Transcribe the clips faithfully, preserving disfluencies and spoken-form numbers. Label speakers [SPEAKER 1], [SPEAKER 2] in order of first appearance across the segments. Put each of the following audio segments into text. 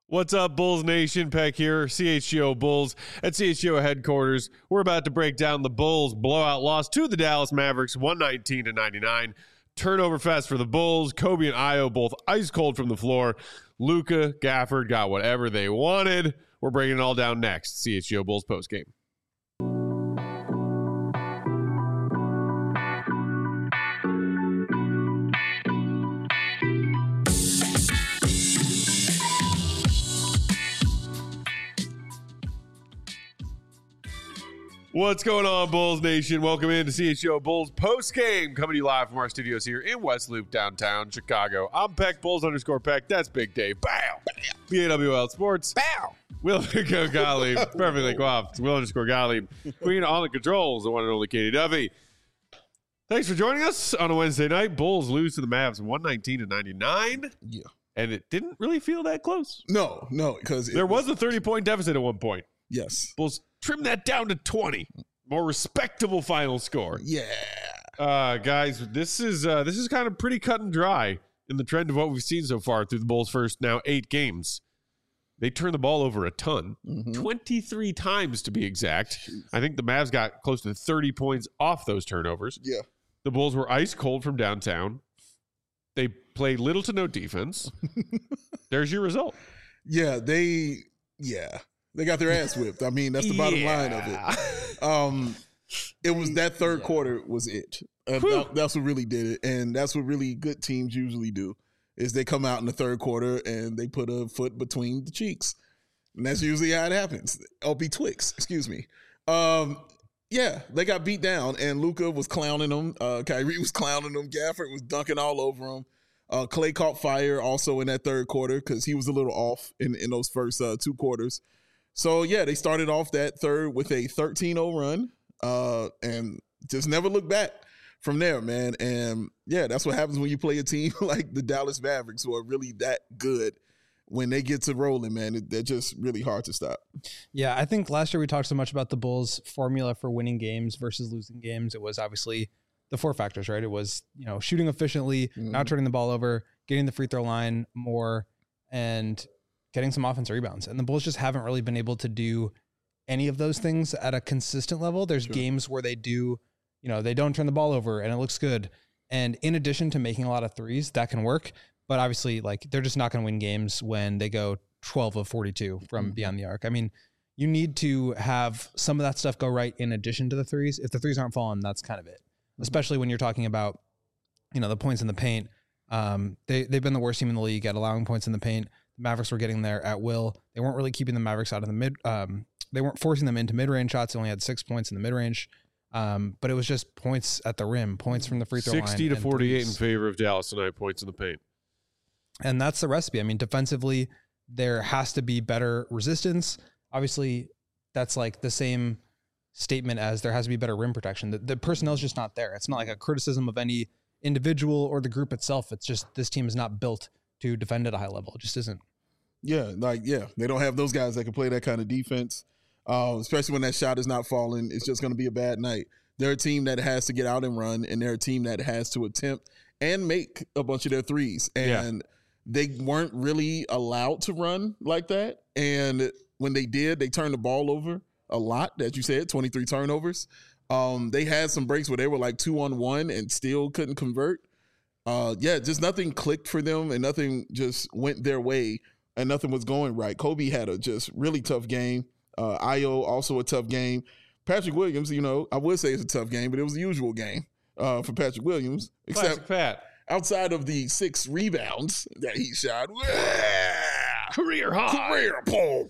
[SPEAKER 1] What's up, Bulls Nation? Peck here, C H G O Bulls at C H G O headquarters. We're about to break down the Bulls' blowout loss to the Dallas Mavericks, one nineteen to ninety-nine. Turnover fest for the Bulls. Kobe and Ayo both ice cold from the floor. Luka, Gafford got whatever they wanted. We're breaking it all down next. C H G O Bulls postgame. What's going on, Bulls Nation? Welcome into C H G O Bulls postgame, coming to you live from our studios here in West Loop, downtown Chicago. I'm Peck, Bulls underscore Peck. That's Big Dave. Bow. B A W L Sports. Bow. Will underscore Gottlieb. Perfectly coiffed. Will underscore Gottlieb. Queen on the controls, the one and only Katie Duffy. Thanks for joining us on a Wednesday night. Bulls lose to the Mavs one nineteen to ninety-nine.
[SPEAKER 2] Yeah.
[SPEAKER 1] And it didn't really feel that close.
[SPEAKER 2] No, no, because
[SPEAKER 1] there was, was a thirty-point deficit at one point.
[SPEAKER 2] Yes.
[SPEAKER 1] Bulls trim that down to twenty. More respectable final score.
[SPEAKER 2] Yeah.
[SPEAKER 1] Uh, guys, this is uh, this is kind of pretty cut and dry in the trend of what we've seen so far through the Bulls' first now eight games. They turned the ball over a ton, mm-hmm. twenty-three times to be exact. Jeez. I think the Mavs got close to thirty points off those turnovers.
[SPEAKER 2] Yeah.
[SPEAKER 1] The Bulls were ice cold from downtown. They played little to no defense. There's your result.
[SPEAKER 2] Yeah, they, yeah. They got their ass whipped. I mean, that's the bottom
[SPEAKER 1] yeah.
[SPEAKER 2] line of it. Um, it was that third yeah. quarter was it. Uh, that, that's what really did it, and that's what really good teams usually do. Is they come out in the third quarter and they put a foot between the cheeks, and that's usually how it happens. L B Twix, excuse me. Um, yeah, they got beat down, and Luka was clowning them. Uh, Kyrie was clowning them. Gafford was dunking all over them. Uh, Clay caught fire also in that third quarter because he was a little off in in those first uh, two quarters. So, yeah, they started off that third with a thirteen oh run uh, and just never looked back from there, man. And, yeah, that's what happens when you play a team like the Dallas Mavericks, who are really that good. When they get to rolling, man, they're just really hard to stop.
[SPEAKER 3] Yeah, I think last year we talked so much about the Bulls' formula for winning games versus losing games. It was obviously the four factors, right? It was, you know, shooting efficiently, mm-hmm. not turning the ball over, getting the free throw line more, and getting some offensive rebounds. And the Bulls just haven't really been able to do any of those things at a consistent level. There's sure. games where they do, you know, they don't turn the ball over and it looks good. And in addition to making a lot of threes, that can work. But obviously, like, they're just not going to win games when they go twelve of forty-two from mm-hmm. beyond the arc. I mean, you need to have some of that stuff go right in addition to the threes. If the threes aren't falling, that's kind of it. Mm-hmm. Especially when you're talking about, you know, the points in the paint. Um, they, they've been the worst team in the league at allowing points in the paint. The Mavericks were getting there at will. They weren't really keeping the Mavericks out of the mid. Um, they weren't forcing them into mid-range shots. They only had six points in the mid-range. Um, but it was just points at the rim, points from the free throw line.
[SPEAKER 1] sixty to forty-eight in favor of Dallas tonight, points in the paint.
[SPEAKER 3] And that's the recipe. I mean, defensively, there has to be better resistance. Obviously, that's like the same statement as there has to be better rim protection. The, the personnel is just not there. It's not like a criticism of any individual or the group itself. It's just this team is not built to defend at a high level. It just isn't.
[SPEAKER 2] Yeah, like, yeah, they don't have those guys that can play that kind of defense, uh, especially when that shot is not falling. It's just going to be a bad night. They're a team that has to get out and run, and they're a team that has to attempt and make a bunch of their threes. And yeah. they weren't really allowed to run like that. And when they did, they turned the ball over a lot, as you said, twenty-three turnovers. Um, they had some breaks where they were like two on one and still couldn't convert. Uh, yeah, just nothing clicked for them and nothing just went their way and nothing was going right. Kobe had a just really tough game. Uh, Ayo also a tough game. Patrick Williams, you know, I would say it's a tough game, but it was the usual game uh, for Patrick Williams.
[SPEAKER 1] Classic
[SPEAKER 2] Except
[SPEAKER 1] Pat.
[SPEAKER 2] Outside of the six rebounds that he shot.
[SPEAKER 1] Career high.
[SPEAKER 2] Career pole.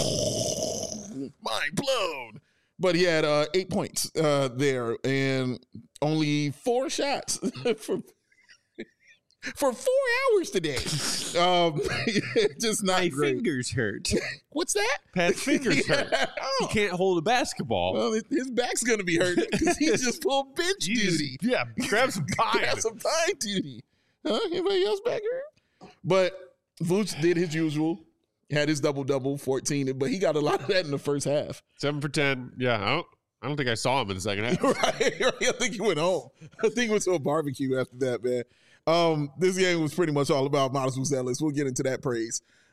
[SPEAKER 2] Mind blown. But he had uh, eight points uh, there and only four shots for for four hours today. Um, just not
[SPEAKER 1] My
[SPEAKER 2] great.
[SPEAKER 1] fingers hurt.
[SPEAKER 2] What's that?
[SPEAKER 1] Pat's fingers hurt.
[SPEAKER 2] Oh.
[SPEAKER 1] He can't hold a basketball.
[SPEAKER 2] Well, his back's going to be hurt because he just pulled bench
[SPEAKER 1] You
[SPEAKER 2] duty.
[SPEAKER 1] just- yeah, grab some pine.
[SPEAKER 2] Grab some pine duty. Huh? Anybody else back here? But Vooch did his usual. Had his double-double, fourteen, but he got a lot of that in the first half.
[SPEAKER 1] Seven for ten. Yeah, I don't, I don't think I saw him in the second half.
[SPEAKER 2] right, right. I think he went home. I think he went to a barbecue after that, man. Um, this game was pretty much all about Miles Muzelis. We'll get into that praise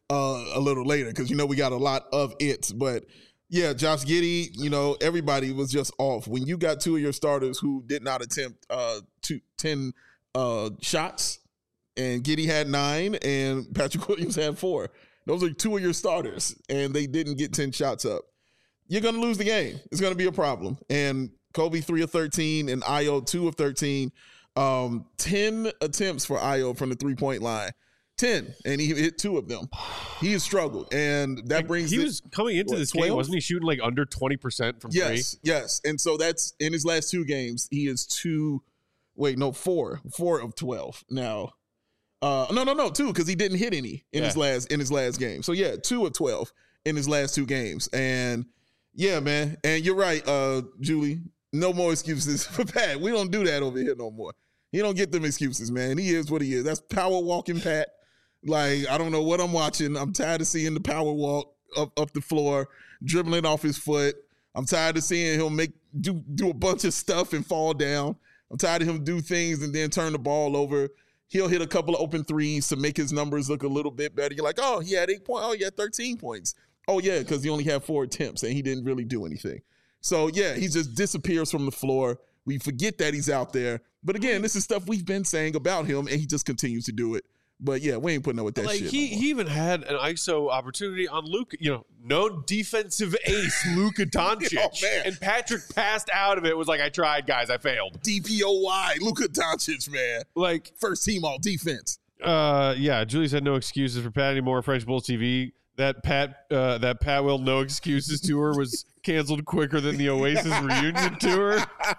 [SPEAKER 2] uh, a little later because, you know, we got a lot of it. But, yeah, Josh Giddey, you know, everybody was just off. When you got two of your starters who did not attempt uh, two, ten uh, shots, and Giddey had nine and Patrick Williams had four. Those are two of your starters, and they didn't get ten shots up. You're going to lose the game. It's going to be a problem. And Kobe, three of thirteen, and Ayo, two of thirteen. Um, ten attempts for Ayo from the three-point line. ten, and he hit two of them. He has struggled, and that
[SPEAKER 1] like,
[SPEAKER 2] brings
[SPEAKER 1] he
[SPEAKER 2] it,
[SPEAKER 1] was coming into
[SPEAKER 2] what,
[SPEAKER 1] this
[SPEAKER 2] twelve?
[SPEAKER 1] game, wasn't he shooting like under twenty percent from
[SPEAKER 2] yes,
[SPEAKER 1] three?
[SPEAKER 2] Yes, and so that's in his last two games. He is two, wait, no, four, four of twelve now. Uh, no, no, no, two, because he didn't hit any in
[SPEAKER 1] yeah.
[SPEAKER 2] his last in his last game. So yeah, two of twelve in his last two games, and yeah, man, and you're right, uh, Julie. No more excuses for Pat. We don't do that over here no more. He don't get them excuses, man. He is what he is. That's power walking Pat. Like, I don't know what I'm watching. I'm tired of seeing the power walk up, up the floor, dribbling off his foot. I'm tired of seeing him make do do a bunch of stuff and fall down. I'm tired of him do things and then turn the ball over. He'll hit a couple of open threes to make his numbers look a little bit better. You're like, oh, he had eight points. Oh, he had thirteen points. Oh, yeah, because he only had four attempts and he didn't really do anything. So, yeah, he just disappears from the floor. We forget that he's out there. But, again, this is stuff we've been saying about him, and he just continues to do it. But, yeah, we ain't putting up with that
[SPEAKER 1] like
[SPEAKER 2] shit.
[SPEAKER 1] He,
[SPEAKER 2] no
[SPEAKER 1] he even had an I S O opportunity on Luka, you know, no defensive ace, Luka Doncic.
[SPEAKER 2] Oh, man.
[SPEAKER 1] And Patrick passed out of it, was like, I tried, guys, I failed.
[SPEAKER 2] D P O Y, Luka Doncic, man.
[SPEAKER 1] Like,
[SPEAKER 2] first team all defense.
[SPEAKER 1] Uh, yeah, Julie said no excuses for Pat anymore. French Bulls T V. That Pat, uh, that Pat Will no excuses tour was canceled quicker than the Oasis reunion tour.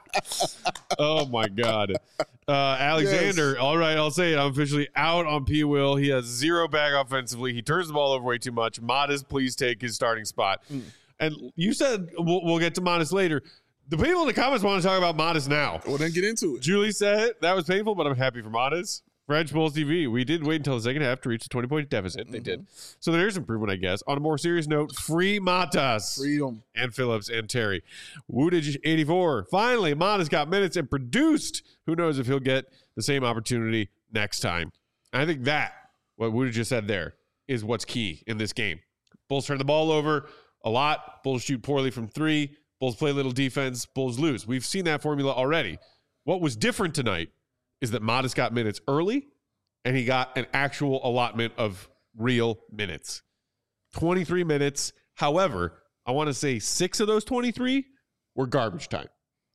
[SPEAKER 1] Oh my God, uh, Alexander. Yes. All right, I'll say it. I'm officially out on P. Will. He has zero bag offensively. He turns the ball over way too much. Modest, please take his starting spot. Mm. And you said we'll, we'll get to Modest later. The people in the comments want to talk about Modest now.
[SPEAKER 2] Well, then get into it.
[SPEAKER 1] Julie said that was painful, but I'm happy for Modest. French Bulls T V. We did wait until the second half to reach the twenty-point deficit. They mm-hmm. did. So there's improvement, I guess. On a more serious note, free Matas.
[SPEAKER 2] Freedom.
[SPEAKER 1] And Phillips and Terry. Woodage eighty-four. Finally, Matas got minutes and produced. Who knows if he'll get the same opportunity next time. And I think that, what Woodage just said there, is what's key in this game. Bulls turn the ball over a lot. Bulls shoot poorly from three. Bulls play little defense. Bulls lose. We've seen that formula already. What was different tonight is that Modest got minutes early, and he got an actual allotment of real minutes. twenty-three minutes. However, I want to say six of those twenty-three were garbage time.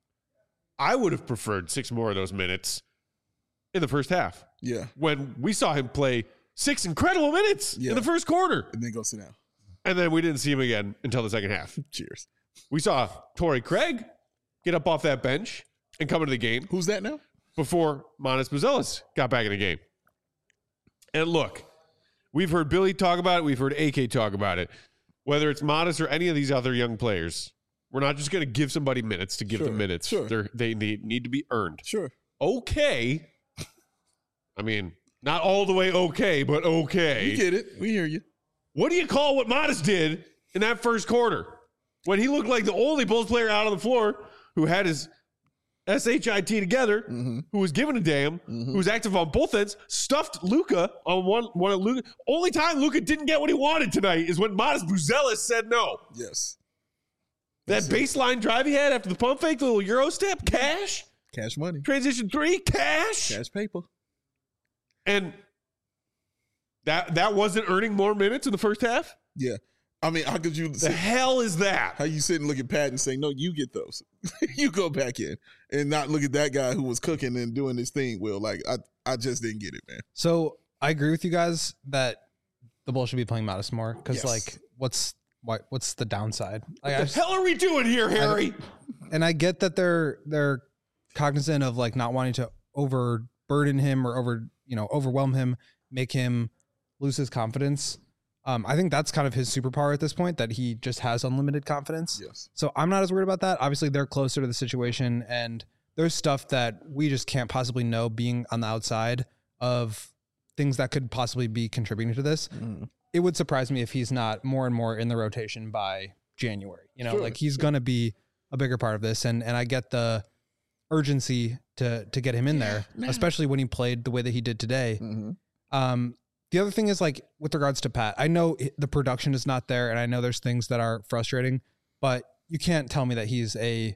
[SPEAKER 1] I would have preferred six more of those minutes in the first half.
[SPEAKER 2] Yeah.
[SPEAKER 1] When we saw him play six incredible minutes yeah. in the first quarter.
[SPEAKER 2] And then go sit down.
[SPEAKER 1] And then we didn't see him again until the second half.
[SPEAKER 2] Cheers.
[SPEAKER 1] We saw Torrey Craig get up off that bench and come into the game.
[SPEAKER 2] Who's that now?
[SPEAKER 1] Before Manas Buzelis got back in the game. And look, we've heard Billy talk about it. We've heard A K talk about it. Whether it's Manas or any of these other young players, we're not just going to give somebody minutes to give
[SPEAKER 2] sure,
[SPEAKER 1] them minutes.
[SPEAKER 2] Sure.
[SPEAKER 1] They're, they need, need to be earned.
[SPEAKER 2] Sure.
[SPEAKER 1] Okay. I mean, not all the way okay, but okay.
[SPEAKER 2] We get it. We hear you.
[SPEAKER 1] What do you call what Manas did in that first quarter? When he looked like the only Bulls player out on the floor who had his S H I T together, mm-hmm. who was giving a damn, mm-hmm. who was active on both ends, stuffed Luka on one one of Luka. Only time Luka didn't get what he wanted tonight is when Matas Buzelis said no.
[SPEAKER 2] Yes.
[SPEAKER 1] That That's baseline it. drive he had after the pump fake, the little Euro step, cash.
[SPEAKER 2] Cash money.
[SPEAKER 1] Transition three, cash.
[SPEAKER 2] Cash paper.
[SPEAKER 1] And that that wasn't earning more minutes in the first half?
[SPEAKER 2] Yeah. I mean, how could you...
[SPEAKER 1] The sit, hell is that?
[SPEAKER 2] How you sit and look at Pat and say, no, you get those. You go back in and not look at that guy who was cooking and doing his thing, Will. Like, I, I just didn't get it, man.
[SPEAKER 3] So I agree with you guys that the Bulls should be playing Modest more because,
[SPEAKER 2] yes.
[SPEAKER 3] like, what's why, what's the downside?
[SPEAKER 1] What
[SPEAKER 3] like,
[SPEAKER 1] the
[SPEAKER 3] just,
[SPEAKER 1] hell are we doing here, Harry?
[SPEAKER 3] I, and I get that they're they're cognizant of, like, not wanting to overburden him or over, you know, overwhelm him, make him lose his confidence. Um, I think that's kind of his superpower at this point, that he just has unlimited confidence.
[SPEAKER 2] Yes.
[SPEAKER 3] So I'm not as worried about that. Obviously, they're closer to the situation, and there's stuff that we just can't possibly know being on the outside of things that could possibly be contributing to this. Mm. It would surprise me if he's not more and more in the rotation by January. You know, sure, like he's sure. going to be a bigger part of this, and and I get the urgency to to get him in yeah, there, man. especially when he played the way that he did today. Mm-hmm. Um, the other thing is like with regards to Pat, I know the production is not there and I know there's things that are frustrating, but you can't tell me that he's a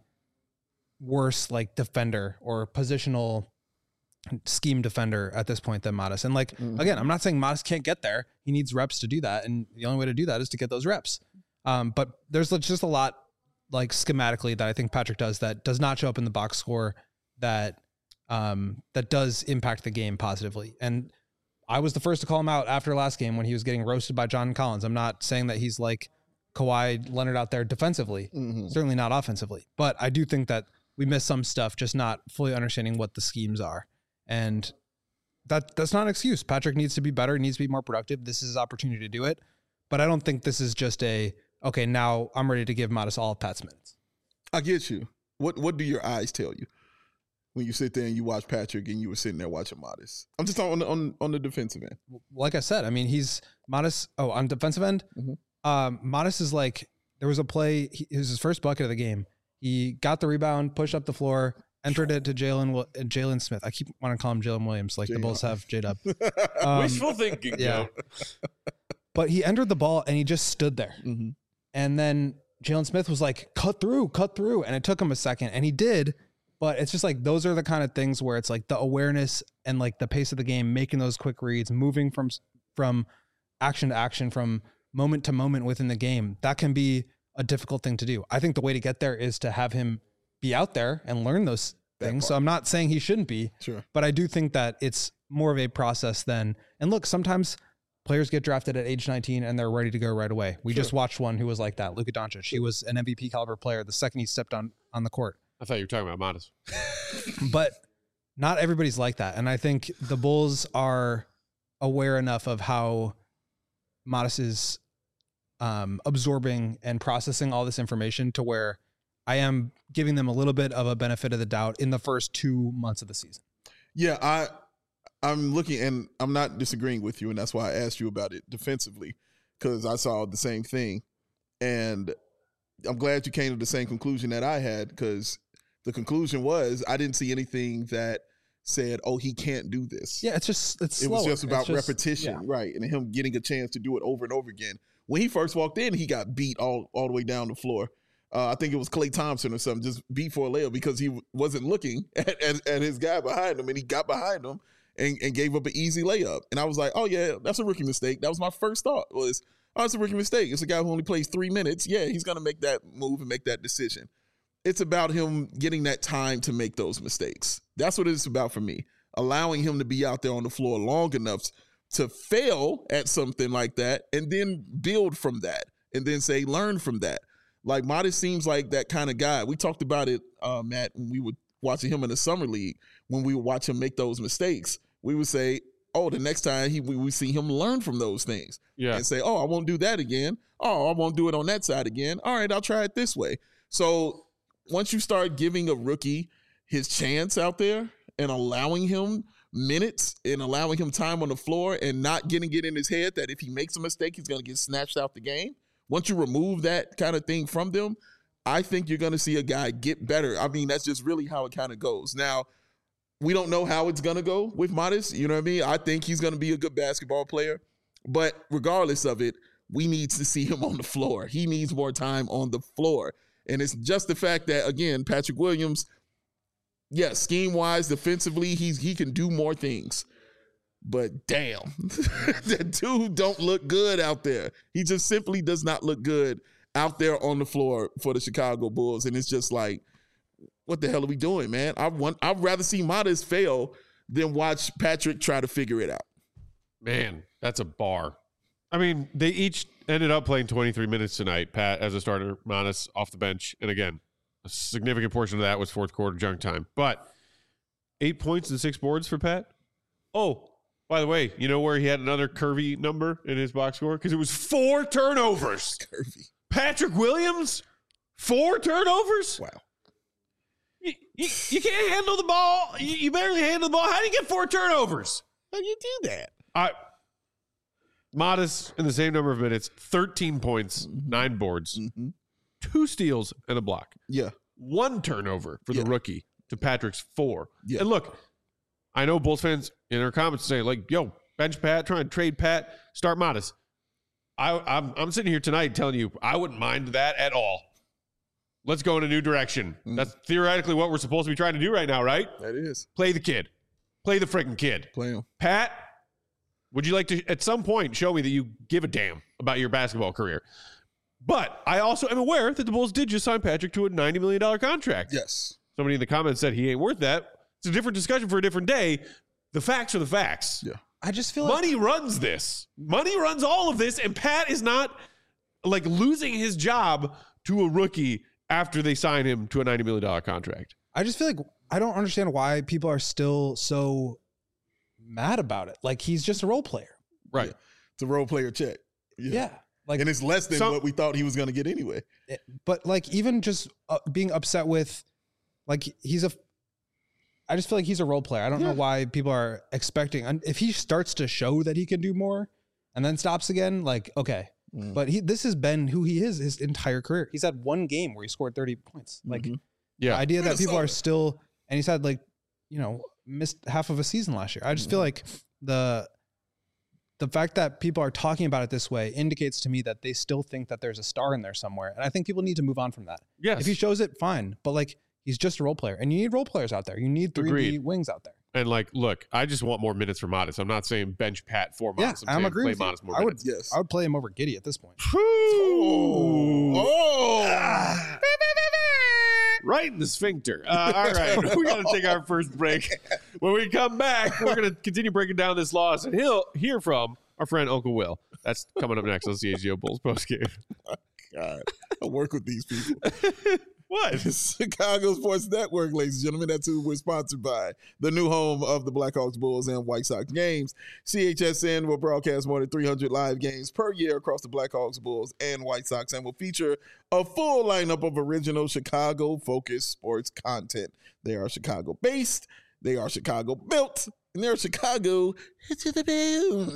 [SPEAKER 3] worse like defender or positional scheme defender at this point than Modest. And like, mm-hmm. again, I'm not saying Modest can't get there. He needs reps to do that. And the only way to do that is to get those reps. Um, but there's just a lot like schematically that I think Patrick does that does not show up in the box score that, um, that does impact the game positively. And I was the first to call him out after last game when he was getting roasted by John Collins. I'm not saying that he's like Kawhi Leonard out there defensively, mm-hmm. certainly not offensively, but I do think that we missed some stuff, just not fully understanding what the schemes are. And that that's not an excuse. Patrick needs to be better, needs to be more productive. This is his opportunity to do it. But I don't think this is just a, okay, now I'm ready to give Modest all of Pat's minutes.
[SPEAKER 2] I get you. What what do your eyes tell you when you sit there and you watch Patrick and you were sitting there watching Modest? I'm just talking on the, on, on the defensive end.
[SPEAKER 3] Like I said, I mean, he's Modest. Oh, on defensive end, mm-hmm. um, Modest is like, there was a play. He, it was his first bucket of the game. He got the rebound, pushed up the floor, entered it to Jalen Jalen Smith. I keep wanting to call him Jalen Williams, like J- the Bulls have J-Dub.
[SPEAKER 1] Um, Wishful thinking,
[SPEAKER 3] yeah. But he entered the ball and he just stood there. Mm-hmm. And then Jalen Smith was like, cut through, cut through. And it took him a second. And he did. But it's just like, those are the kind of things where it's like the awareness and like the pace of the game, making those quick reads, moving from from action to action, from moment to moment within the game. That can be a difficult thing to do. I think the way to get there is to have him be out there and learn those things. So I'm not saying he shouldn't be,
[SPEAKER 2] sure,
[SPEAKER 3] but I do think that it's more of a process than, and look, sometimes players get drafted at age nineteen and they're ready to go right away. We sure. just watched one who was like that, Luka Doncic. He was an M V P caliber player the second he stepped on, on the court.
[SPEAKER 1] I thought you were talking about Modest.
[SPEAKER 3] But not everybody's like that. And I think the Bulls are aware enough of how Modest is um, absorbing and processing all this information to where I am giving them a little bit of a benefit of the doubt in the first two months of the season.
[SPEAKER 2] Yeah, I, I'm looking, and I'm not disagreeing with you, and that's why I asked you about it defensively, because I saw the same thing. And I'm glad you came to the same conclusion that I had, because the conclusion was I didn't see anything that said, oh, he can't do this.
[SPEAKER 3] Yeah, it's just, it's
[SPEAKER 2] It
[SPEAKER 3] slower.
[SPEAKER 2] was just about
[SPEAKER 3] just,
[SPEAKER 2] repetition,
[SPEAKER 3] yeah.
[SPEAKER 2] right, and him getting a chance to do it over and over again. When he first walked in, he got beat all, all the way down the floor. Uh, I think it was Klay Thompson or something, just beat for a layup because he w- wasn't looking at, at, at his guy behind him, and he got behind him and, and gave up an easy layup. And I was like, oh, yeah, that's a rookie mistake. That was my first thought was, oh, it's a rookie mistake. It's a guy who only plays three minutes. Yeah, he's going to make that move and make that decision. It's about him getting that time to make those mistakes. That's what it's about for me, allowing him to be out there on the floor long enough to fail at something like that and then build from that and then say, learn from that. Like, Modest seems like that kind of guy. We talked about it, uh, Matt, when we were watching him in the summer league. When we would watch him make those mistakes, we would say, oh, the next time he we, we see him learn from those things.
[SPEAKER 1] Yeah.
[SPEAKER 2] And say, oh, I won't do that again. Oh, I won't do it on that side again. All right, I'll try it this way. So once you start giving a rookie his chance out there and allowing him minutes and allowing him time on the floor and not getting it in his head that if he makes a mistake, he's going to get snatched out the game. Once you remove that kind of thing from them, I think you're going to see a guy get better. I mean, that's just really how it kind of goes. Now, we don't know how it's going to go with Modest. You know what I mean? I think he's going to be a good basketball player. But regardless of it, we need to see him on the floor. He needs more time on the floor. And it's just the fact that, again, Patrick Williams, yeah, scheme-wise, defensively, he's, he can do more things. But damn, that dude don't look good out there. He just simply does not look good out there on the floor for the Chicago Bulls. And it's just like, what the hell are we doing, man? I want, I'd rather see Modest fail than watch Patrick try to figure it out.
[SPEAKER 1] Man, that's a bar. I mean, they each ended up playing twenty-three minutes tonight, Pat as a starter, Modest off the bench. And again, a significant portion of that was fourth quarter junk time. But eight points and six boards for Pat. Oh, by the way, you know where he had another curvy number in his box score? Because it was four turnovers.
[SPEAKER 2] Curvy.
[SPEAKER 1] Patrick Williams, four turnovers?
[SPEAKER 2] Wow.
[SPEAKER 1] You, you, you can't handle the ball. You, you barely handle the ball. How do you get four turnovers?
[SPEAKER 2] How do you do that?
[SPEAKER 1] I, Modest in the same number of minutes, thirteen points, mm-hmm. nine boards, mm-hmm. two steals, and a block.
[SPEAKER 2] Yeah.
[SPEAKER 1] One turnover for yeah. the rookie to Patrick's four.
[SPEAKER 2] Yeah.
[SPEAKER 1] And look, I know Bulls fans in their comments say, like, yo, bench Pat, trying to trade Pat, start Modest. I, I'm, I'm sitting here tonight telling you I wouldn't mind that at all. Let's go in a new direction. Mm. That's theoretically what we're supposed to be trying to do right now, right?
[SPEAKER 2] That is.
[SPEAKER 1] Play the kid. Play the freaking kid.
[SPEAKER 2] Play him.
[SPEAKER 1] Pat, would you like to, at some point, show me that you give a damn about your basketball career? But I also am aware that the Bulls did just sign Patrick to a ninety million dollars contract.
[SPEAKER 2] Yes.
[SPEAKER 1] Somebody in the comments said he ain't worth that. It's a different discussion for a different day. The facts are the facts.
[SPEAKER 2] Yeah.
[SPEAKER 3] I just feel
[SPEAKER 1] money
[SPEAKER 3] like
[SPEAKER 1] runs this. Money runs all of this, and Pat is not like losing his job to a rookie after they sign him to a ninety million dollars contract.
[SPEAKER 3] I just feel like I don't understand why people are still so mad about it. Like, he's just a role player.
[SPEAKER 1] Right.
[SPEAKER 2] Yeah. It's a role player check.
[SPEAKER 3] Yeah. yeah.
[SPEAKER 2] Like, and it's less than
[SPEAKER 3] some,
[SPEAKER 2] what we thought he was going to get anyway.
[SPEAKER 3] But like, even just uh, being upset with, like, he's a, I just feel like he's a role player. I don't yeah. know why people are expecting, and if he starts to show that he can do more and then stops again, like, okay. Mm. But he, this has been who he is his entire career. He's had one game where he scored thirty points. Like, mm-hmm.
[SPEAKER 1] yeah.
[SPEAKER 3] the idea that people are still, and he's had like, you know, missed half of a season last year. I just mm-hmm. feel like the, the fact that people are talking about it this way indicates to me that they still think that there's a star in there somewhere. And I think people need to move on from that.
[SPEAKER 1] Yes.
[SPEAKER 3] If he shows it, fine. But like, he's just a role player, and you need role players out there. You need three D wings out there. And
[SPEAKER 1] like, look, I just want more minutes for Modest. I'm not saying bench Pat for Modest.
[SPEAKER 3] Yeah, I'm,
[SPEAKER 1] I'm
[SPEAKER 3] agreeing.
[SPEAKER 1] Play Modest more
[SPEAKER 3] I would,
[SPEAKER 1] minutes.
[SPEAKER 3] yes. I would play him over Giddey at this point.
[SPEAKER 1] Oh, oh. Ah. Right in the sphincter. Uh, all right, we got to take our first break. When we come back, we're going to continue breaking down this loss, and he'll hear from our friend Uncle Will. That's coming up next on C H G O Bulls postgame.
[SPEAKER 2] Oh, God, I work with these people.
[SPEAKER 1] What?
[SPEAKER 2] Chicago Sports Network, ladies and gentlemen. That's who we're sponsored by. The new home of the Blackhawks, Bulls, and White Sox games. C H S N will broadcast more than three hundred live games per year across the Blackhawks, Bulls, and White Sox, and will feature a full lineup of original Chicago-focused sports content. They are Chicago-based, they are Chicago-built, and they're Chicago to the bone.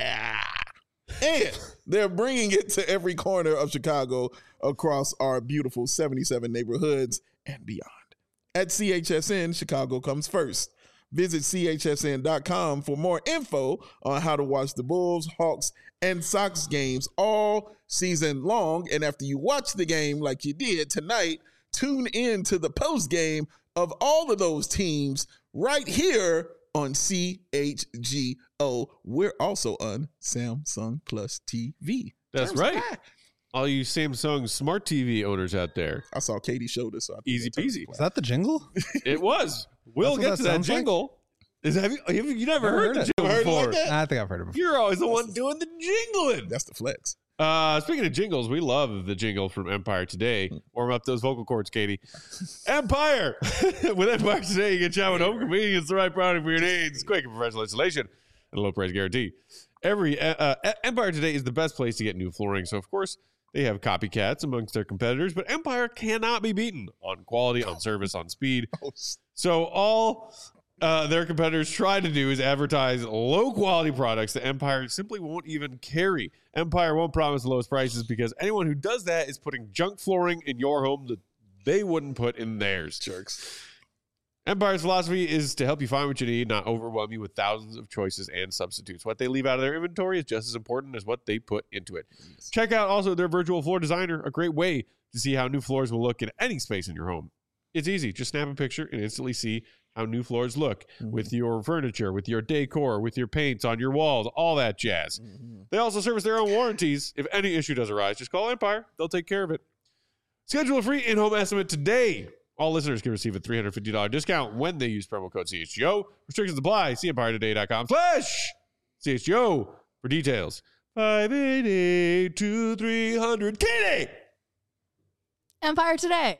[SPEAKER 2] And they're bringing it to every corner of Chicago across our beautiful seventy-seven neighborhoods and beyond. At C H S N, Chicago comes first. Visit C H S N dot com for more info on how to watch the Bulls, Hawks, and Sox games all season long. And after you watch the game like you did tonight, tune in to the post game of all of those teams right here on C H G O. We're also on Samsung Plus T V.
[SPEAKER 1] That's right. High. All you Samsung Smart T V owners out there.
[SPEAKER 2] I saw Katie showed us. So
[SPEAKER 1] Easy peasy.
[SPEAKER 3] Was that the jingle?
[SPEAKER 1] It was. We'll get that to that jingle. Like? Is have you, have you never heard, heard the jingle
[SPEAKER 2] heard
[SPEAKER 1] before?
[SPEAKER 2] Like
[SPEAKER 3] I think I've heard it before.
[SPEAKER 1] You're always the
[SPEAKER 2] That's
[SPEAKER 1] one
[SPEAKER 2] the,
[SPEAKER 1] doing the jingling.
[SPEAKER 2] That's the flex.
[SPEAKER 1] Uh, speaking of jingles, we love the jingle from Empire Today. Warm up those vocal cords, Katie. Empire! With Empire Today, you get shot with home convenience, the right product for your needs, quick and professional installation, and a low price guarantee. Every uh, uh, Empire Today is the best place to get new flooring. So, of course, they have copycats amongst their competitors, but Empire cannot be beaten on quality, on service, on speed. So all uh, their competitors try to do is advertise low-quality products that Empire simply won't even carry. Empire won't promise the lowest prices because anyone who does that is putting junk flooring in your home that they wouldn't put in theirs.
[SPEAKER 2] Jerks.
[SPEAKER 1] Empire's philosophy is to help you find what you need, not overwhelm you with thousands of choices and substitutes. What they leave out of their inventory is just as important as what they put into it. Yes. Check out also their virtual floor designer, a great way to see how new floors will look in any space in your home. It's easy. Just snap a picture and instantly see how new floors look mm-hmm. with your furniture, with your decor, with your paints on your walls, all that jazz. Mm-hmm. They also service their own warranties. If any issue does arise, just call Empire. They'll take care of it. Schedule a free in-home estimate today. All listeners can receive a three hundred fifty dollars discount when they use promo code C H G O. Restrictions apply. See empire today dot com slash C H G O for details. five eight eight, two three hundred. Katie!
[SPEAKER 4] Empire Today.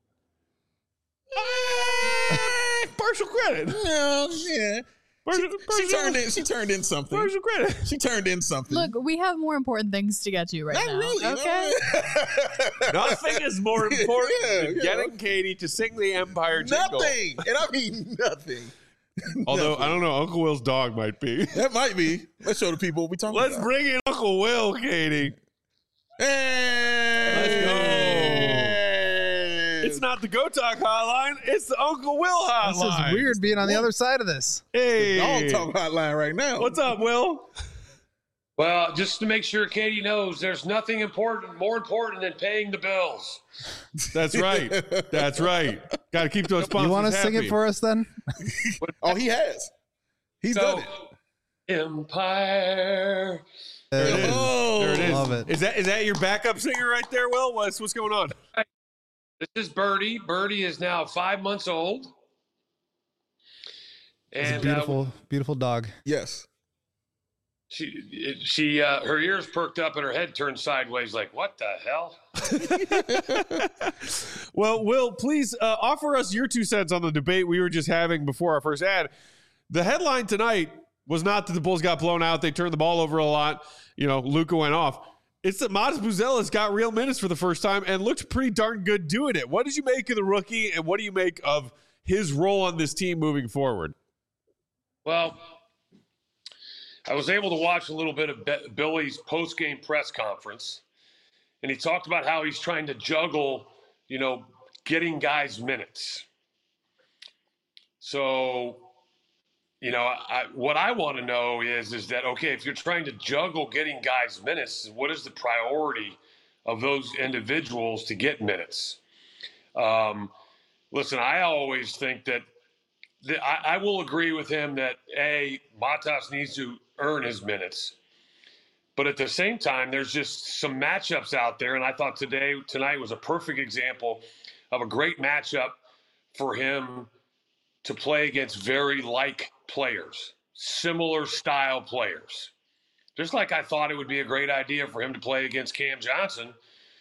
[SPEAKER 1] Ah, partial credit.
[SPEAKER 2] Well, yeah.
[SPEAKER 1] Partial,
[SPEAKER 2] she,
[SPEAKER 1] partial,
[SPEAKER 2] she turned in. She turned in something.
[SPEAKER 1] Partial credit.
[SPEAKER 2] She turned in something.
[SPEAKER 4] Look, we have more important things to get to right
[SPEAKER 2] Not
[SPEAKER 4] now.
[SPEAKER 2] really.
[SPEAKER 4] Okay.
[SPEAKER 2] No.
[SPEAKER 1] Nothing is more important
[SPEAKER 2] Yeah,
[SPEAKER 1] than
[SPEAKER 2] yeah.
[SPEAKER 1] getting Katie to sing the Empire jingle.
[SPEAKER 2] Nothing, and I mean nothing.
[SPEAKER 1] Although
[SPEAKER 2] Nothing.
[SPEAKER 1] I don't know, Uncle Will's dog might be.
[SPEAKER 2] That might be. Let's show the people what we talking
[SPEAKER 1] Let's
[SPEAKER 2] about.
[SPEAKER 1] bring in Uncle Will, Katie.
[SPEAKER 2] Hey!
[SPEAKER 1] Let's go.
[SPEAKER 2] Hey!
[SPEAKER 1] It's not not the Go Talk hotline. It's the Uncle Will hotline.
[SPEAKER 3] This is weird being on the other side of this.
[SPEAKER 1] Hey.
[SPEAKER 2] Dog Talk hotline right now.
[SPEAKER 1] What's up, Will?
[SPEAKER 5] Well, just to make sure Katie knows, there's nothing important, more important than paying the bills.
[SPEAKER 1] That's right. That's right. Got to keep those sponsors
[SPEAKER 3] You want to
[SPEAKER 1] happy.
[SPEAKER 3] sing it for us then?
[SPEAKER 2] Oh, he has. He's
[SPEAKER 5] So,
[SPEAKER 2] done it.
[SPEAKER 5] Empire.
[SPEAKER 1] There it is.
[SPEAKER 2] Oh,
[SPEAKER 1] There it is.
[SPEAKER 3] love it.
[SPEAKER 1] Is that is that your backup singer right there, Will? What's what's going on?
[SPEAKER 5] This is Birdie. Birdie is now five months old.
[SPEAKER 3] It's a
[SPEAKER 5] And
[SPEAKER 3] beautiful,
[SPEAKER 5] uh,
[SPEAKER 3] beautiful dog.
[SPEAKER 2] Yes.
[SPEAKER 5] she, she, uh, her ears perked up and her head turned sideways. Like, what the hell?
[SPEAKER 1] Well, Will, please uh, offer us your two cents on the debate we were just having before our first ad. The headline tonight was not that the Bulls got blown out. They turned the ball over a lot. You know, Luka went off. It's that Matas Buzelis got real minutes for the first time and looked pretty darn good doing it. What did you make of the rookie, and what do you make of his role on this team moving forward?
[SPEAKER 5] Well, I was able to watch a little bit of Be- Billy's post-game press conference, and he talked about how he's trying to juggle, you know, getting guys minutes. So, you know, I, what I want to know is, is that, okay, if you're trying to juggle getting guys minutes, what is the priority of those individuals to get minutes? Um, listen, I always think that the, I, I will agree with him that, A, Matas needs to earn his minutes. But at the same time, there's just some matchups out there, and I thought today, tonight was a perfect example of a great matchup for him to play against very like players, similar style players. Just like I thought it would be a great idea for him to play against Cam Johnson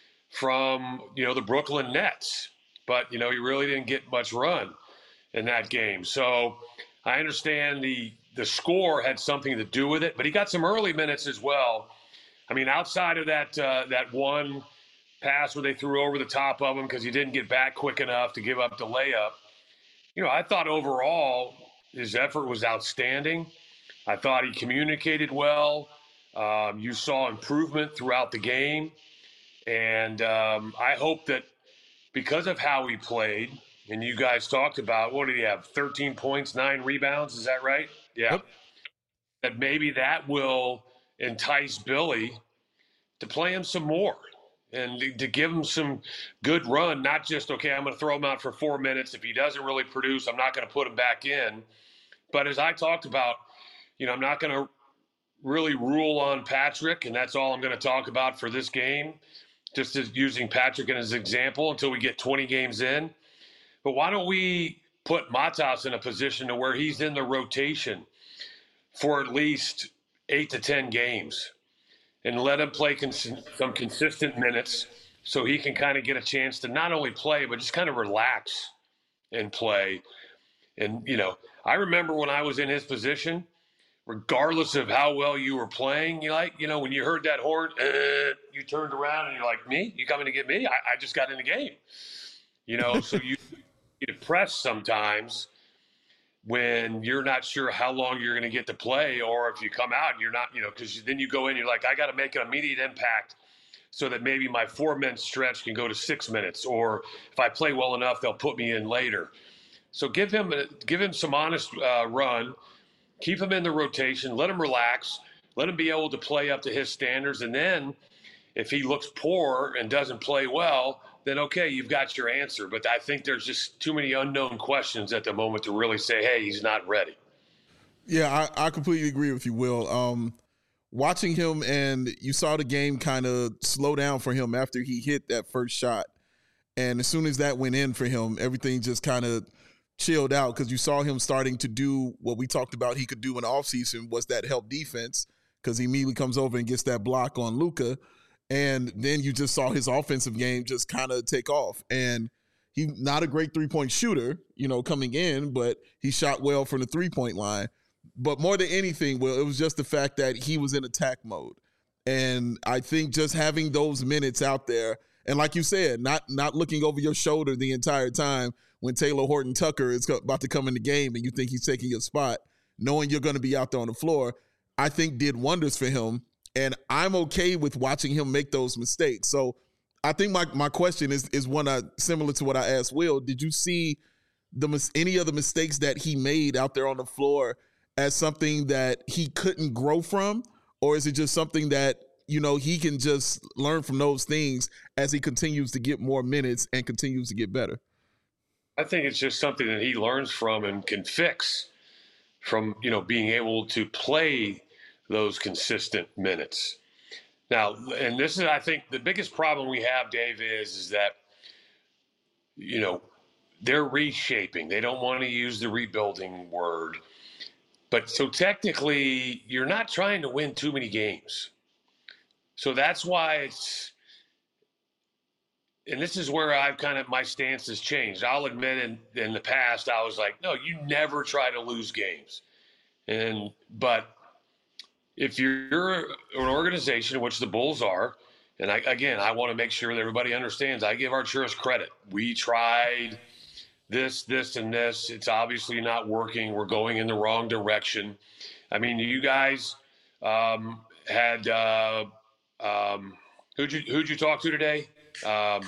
[SPEAKER 5] from, you know, the Brooklyn Nets. But, you know, he really didn't get much run in that game. So I understand the the score had something to do with it, but he got some early minutes as well. I mean, outside of that uh, that one pass where they threw over the top of him because he didn't get back quick enough to give up the layup, you know, I thought overall his effort was outstanding. I thought he communicated well. Um, you saw improvement throughout the game. And um, I hope that because of how he played, and you guys talked about, what did he have, thirteen points, nine rebounds, is that right? Yeah.
[SPEAKER 1] Yep.
[SPEAKER 5] That maybe that will entice Billy to play him some more and to, to give him some good run, not just, okay, I'm going to throw him out for four minutes. If he doesn't really produce, I'm not going to put him back in. But as I talked about, you know, I'm not going to really rule on Patrick, and that's all I'm going to talk about for this game, just as using Patrick as an example until we get twenty games in. But why don't we put Matas in a position to where he's in the rotation for at least eight to ten games and let him play cons- some consistent minutes so he can kind of get a chance to not only play, but just kind of relax and play. And, you know, I remember when I was in his position, regardless of how well you were playing, you like, you know, when you heard that horn, uh, you turned around and you're like, me? You coming to get me? I, I just got in the game. You know, so you get depressed sometimes when you're not sure how long you're going to get to play, or if you come out and you're not, you know, because then you go in, you're like, I got to make an immediate impact so that maybe my four-minute stretch can go to six minutes, or if I play well enough, they'll put me in later. So give him a, give him some honest uh, run, keep him in the rotation, let him relax, let him be able to play up to his standards, and then if he looks poor and doesn't play well, then okay, you've got your answer. But I think there's just too many unknown questions at the moment to really say, hey, he's not ready.
[SPEAKER 2] Yeah, I, I completely agree with you, Will. Um, watching him, and you saw the game kind of slow down for him after he hit that first shot. And as soon as that went in for him, everything just kind of chilled out because you saw him starting to do what we talked about he could do in the offseason, was that help defense, because he immediately comes over and gets that block on Luka. And then you just saw his offensive game just kind of take off. And he's not a great three-point shooter, you know, coming in, but he shot well from the three-point line. But more than anything, well, it was just the fact that he was in attack mode. And I think just having those minutes out there, and like you said, not not looking over your shoulder the entire time when Taylor Horton Tucker is about to come in the game and you think he's taking your spot, knowing you're going to be out there on the floor, I think did wonders for him. And I'm okay with watching him make those mistakes. So I think my, my question is is one I, similar to what I asked Will. Did you see the any of the mistakes that he made out there on the floor as something that he couldn't grow from? Or is it just something that, you know, he can just learn from those things as he continues to get more minutes and continues to get better?
[SPEAKER 5] I think it's just something that he learns from and can fix from, you know, being able to play those consistent minutes. Now, and this is, I think, the biggest problem we have, Dave, is, is that, you know, they're reshaping. They don't want to use the rebuilding word. But so technically, you're not trying to win too many games. So that's why it's, and this is where I've kind of, my stance has changed. I'll admit in, in the past, I was like, no, you never try to lose games. And, but if you're an organization, which the Bulls are, and I, again, I want to make sure that everybody understands, I give Arturas credit. We tried this, this, and this. It's obviously not working. We're going in the wrong direction. I mean, you guys um, had, uh, um, who'd you, who'd you talk to today? Um,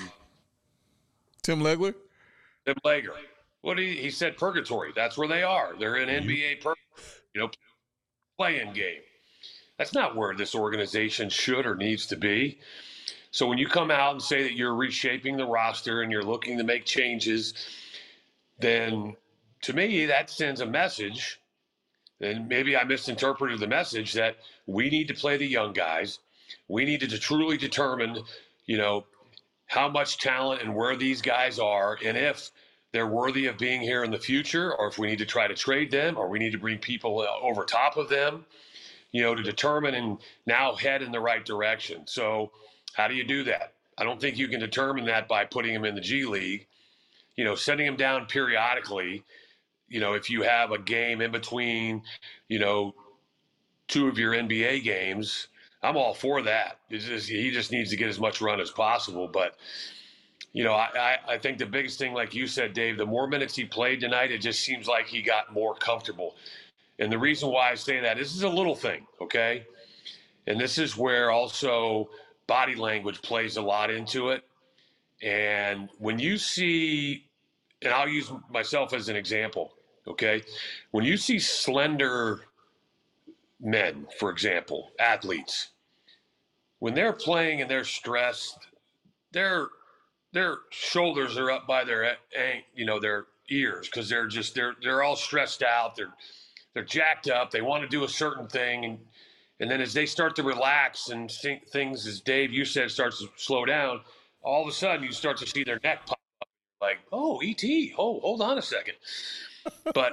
[SPEAKER 2] Tim Legler?
[SPEAKER 5] Tim Legler. What he, he said purgatory. That's where they are. They're in N B A purgatory, you know, play-in game. That's not where this organization should or needs to be. So when you come out and say that you're reshaping the roster and you're looking to make changes, then to me that sends a message, and maybe I misinterpreted the message, that we need to play the young guys. We need to truly determine, you know, how much talent and where these guys are, and if they're worthy of being here in the future, or if we need to try to trade them, or we need to bring people over top of them, you know, to determine and now head in the right direction. So how do you do that? I don't think you can determine that by putting them in the G League, you know, sending them down periodically. You know, if you have a game in between, you know, two of your N B A games, I'm all for that. It's just, he just needs to get as much run as possible. But, you know, I, I, I think the biggest thing, like you said, Dave, the more minutes he played tonight, it just seems like he got more comfortable. And the reason why I say that, this is a little thing, okay? And this is where also body language plays a lot into it. And when you see, and I'll use myself as an example, okay? When you see slender men, for example, athletes, when they're playing and they're stressed, their their shoulders are up by their, you know, their ears, because they're just they're they're all stressed out. They're they're jacked up. They want to do a certain thing, and and then as they start to relax and think things, as Dave, you said, starts to slow down, all of a sudden you start to see their neck pop up. Like, oh, E T, oh, hold on a second. But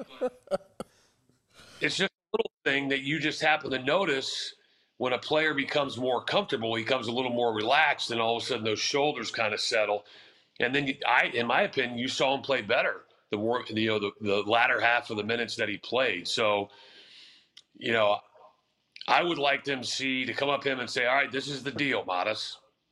[SPEAKER 5] it's just a little thing that you just happen to notice. When a player becomes more comfortable, he becomes a little more relaxed, and all of a sudden those shoulders kind of settle. And then, you, I, in my opinion, you saw him play better the more, you know, the, the latter half of the minutes that he played. So, you know, I would like them to see to come up him and say, all right, this is the deal, Matas.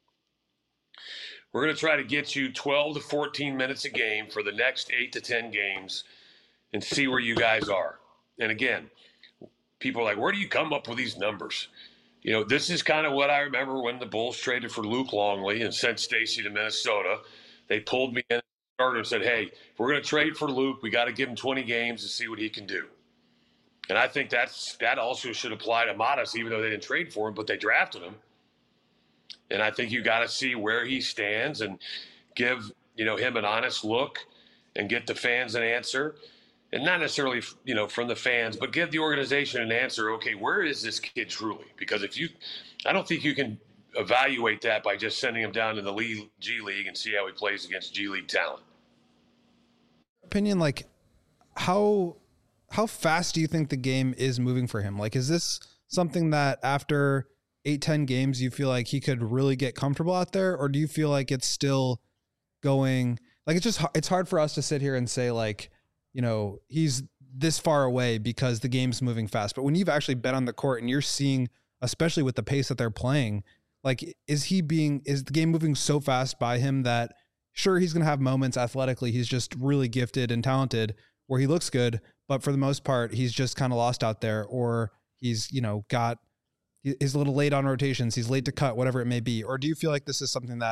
[SPEAKER 5] We're going to try to get you twelve to fourteen minutes a game for the next eight to ten games and see where you guys are. And again, people are like, where do you come up with these numbers? You know, this is kind of what I remember when the Bulls traded for Luke Longley and sent Stacey to Minnesota. They pulled me in and said, hey, if we're going to trade for Luke, we got to give him twenty games to see what he can do. And I think that's that also should apply to Matas, even though they didn't trade for him, but they drafted him. And I think you got to see where he stands and give, you know, him an honest look and get the fans an answer. And not necessarily, you know, from the fans, but give the organization an answer. Okay, where is this kid truly? Because if you, I don't think you can evaluate that by just sending him down to the league, G League and see how he plays against G League talent.
[SPEAKER 3] Opinion, like how how fast do you think the game is moving for him? Like, is this something that after eight, ten games you feel like he could really get comfortable out there, or do you feel like it's still going? Like, it's just it's hard for us to sit here and say, like, you know, he's this far away because the game's moving fast. But when you've actually been on the court and you're seeing, especially with the pace that they're playing, like, is he being, is the game moving so fast by him that sure, he's going to have moments athletically. He's just really gifted and talented where he looks good. But for the most part, he's just kind of lost out there, or he's, you know, got, he's a little late on rotations. He's late to cut, whatever it may be. Or do you feel like this is something that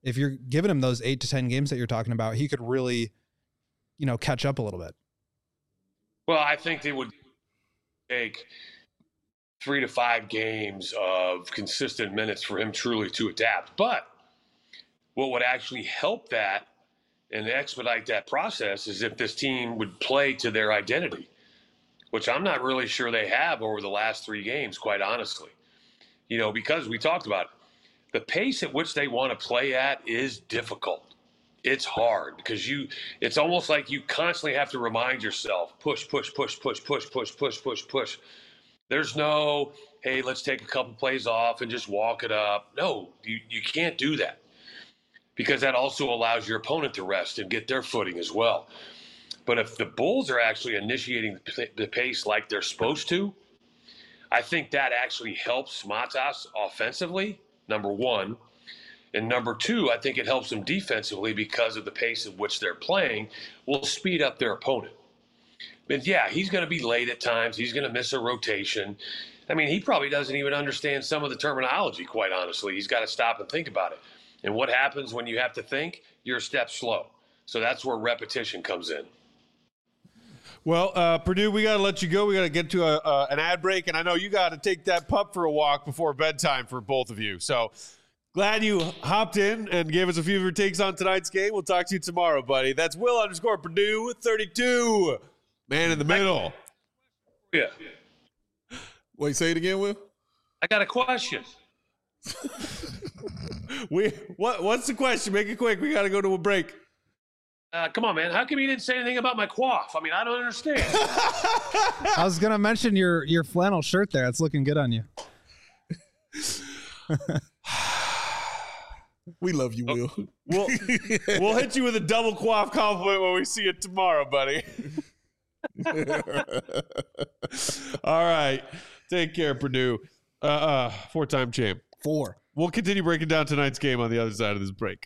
[SPEAKER 3] if you're giving him those eight to ten games that you're talking about, he could really, you know, catch up a little bit.
[SPEAKER 5] Well, I think they would take three to five games of consistent minutes for him truly to adapt. But what would actually help that and expedite that process is if this team would play to their identity, which I'm not really sure they have over the last three games, quite honestly. You know, because we talked about it, the pace at which they want to play at is difficult. It's hard because you, it's almost like you constantly have to remind yourself, push, push, push, push, push, push, push, push, push. There's no, hey, let's take a couple plays off and just walk it up. No, you, you can't do that because that also allows your opponent to rest and get their footing as well. But if the Bulls are actually initiating the pace like they're supposed to, I think that actually helps Matas offensively, number one. And number two, I think it helps them defensively because of the pace at which they're playing will speed up their opponent. But yeah, he's going to be late at times. He's going to miss a rotation. I mean, he probably doesn't even understand some of the terminology, quite honestly. He's got to stop and think about it. And what happens when you have to think? You're a step slow. So that's where repetition comes in.
[SPEAKER 1] Well, uh, Purdue, we got to let you go. We got to get to a, uh, an ad break, and I know you got to take that pup for a walk before bedtime for both of you. So glad you hopped in and gave us a few of your takes on tonight's game. We'll talk to you tomorrow, buddy. That's Will underscore Purdue thirty-two, man in the middle.
[SPEAKER 5] Yeah.
[SPEAKER 2] Wait, say it again, Will.
[SPEAKER 5] I got a question.
[SPEAKER 1] we what? What's the question? Make it quick. We got to go to a break.
[SPEAKER 5] Uh, come on, man. How come you didn't say anything about my coif? I mean, I don't understand.
[SPEAKER 3] I was gonna mention your your flannel shirt there. It's looking good on you.
[SPEAKER 2] We love you, Will.
[SPEAKER 1] We'll, we'll hit you with a double coif compliment when we see you tomorrow, buddy. All right. Take care, Purdue. Uh, uh, four-time champ.
[SPEAKER 2] Four.
[SPEAKER 1] We'll continue breaking down tonight's game on the other side of this break.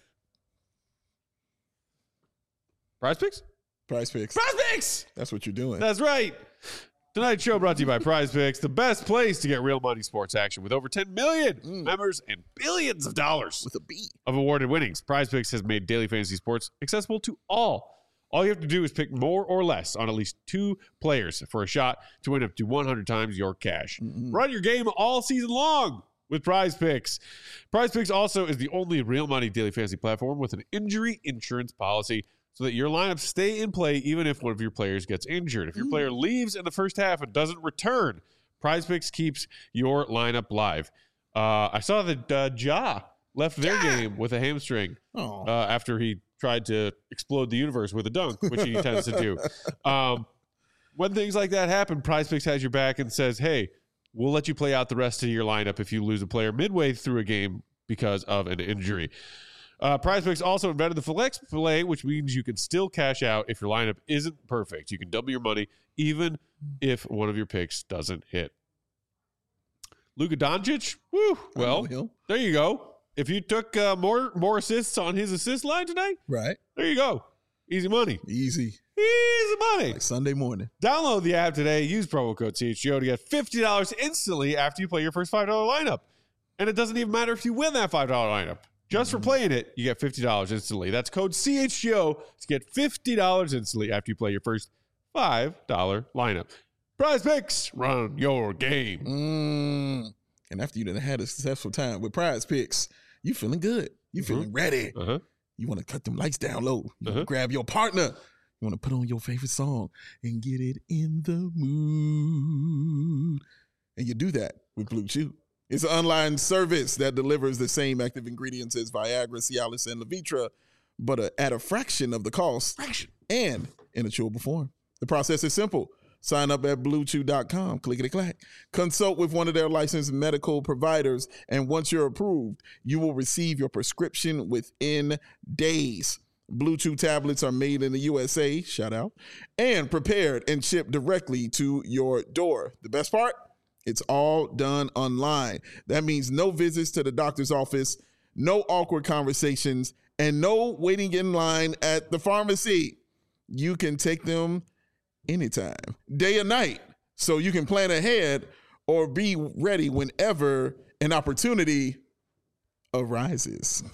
[SPEAKER 1] Prize Picks?
[SPEAKER 2] Prize Picks.
[SPEAKER 1] Prize Picks!
[SPEAKER 2] That's what you're doing.
[SPEAKER 1] That's right. Tonight's show brought to you by Prize Picks, the best place to get real money sports action with over ten million mm. members and billions of dollars
[SPEAKER 2] with a B
[SPEAKER 1] of awarded winnings. Prize Picks has made daily fantasy sports accessible to all. All you have to do is pick more or less on at least two players for a shot to win up to one hundred times your cash. Mm-hmm. Run your game all season long with Prize Picks. Prize Picks also is the only real money daily fantasy platform with an injury insurance policy, so that your lineups stay in play even if one of your players gets injured. If your mm. player leaves in the first half and doesn't return, Prize Picks keeps your lineup live. Uh, I saw that uh, Ja left their ja. game with a hamstring uh, after he tried to explode the universe with a dunk, which he tends to do. Um, when things like that happen, Prize Picks has your back and says, hey, we'll let you play out the rest of your lineup if you lose a player midway through a game because of an injury. Uh, Prize Picks also invented the flex play, which means you can still cash out if your lineup isn't perfect. You can double your money even if one of your picks doesn't hit. Luka Doncic, woo, well, there you go. If you took uh, more more assists on his assist line tonight,
[SPEAKER 2] right?
[SPEAKER 1] There you go. Easy money.
[SPEAKER 2] Easy.
[SPEAKER 1] Easy money.
[SPEAKER 2] Like Sunday morning.
[SPEAKER 1] Download the app today. Use promo code C H G O to get fifty dollars instantly after you play your first five dollar lineup. And it doesn't even matter if you win that five dollar lineup. Just for playing it, you get fifty dollars instantly. That's code C H G O to get fifty dollars instantly after you play your first five dollar lineup. Prize Picks, run your game.
[SPEAKER 2] Mm. And after you done had a successful time with Prize Picks, you feeling good. You feeling mm-hmm. ready. Uh-huh. You want to cut them lights down low. You uh-huh. want to grab your partner. You want to put on your favorite song and get it in the mood. And you do that with Blue Chew. It's an online service that delivers the same active ingredients as Viagra, Cialis, and Levitra, but a, at a fraction of the cost fraction. and in a chewable form. The process is simple. Sign up at blue chew dot com, clickety-clack. Consult with one of their licensed medical providers, and once you're approved, you will receive your prescription within days. Blue Chew tablets are made in the U S A, shout out, and prepared and shipped directly to your door. The best part? It's all done online. That means no visits to the doctor's office, no awkward conversations, and no waiting in line at the pharmacy. You can take them anytime, day or night, so you can plan ahead or be ready whenever an opportunity arises.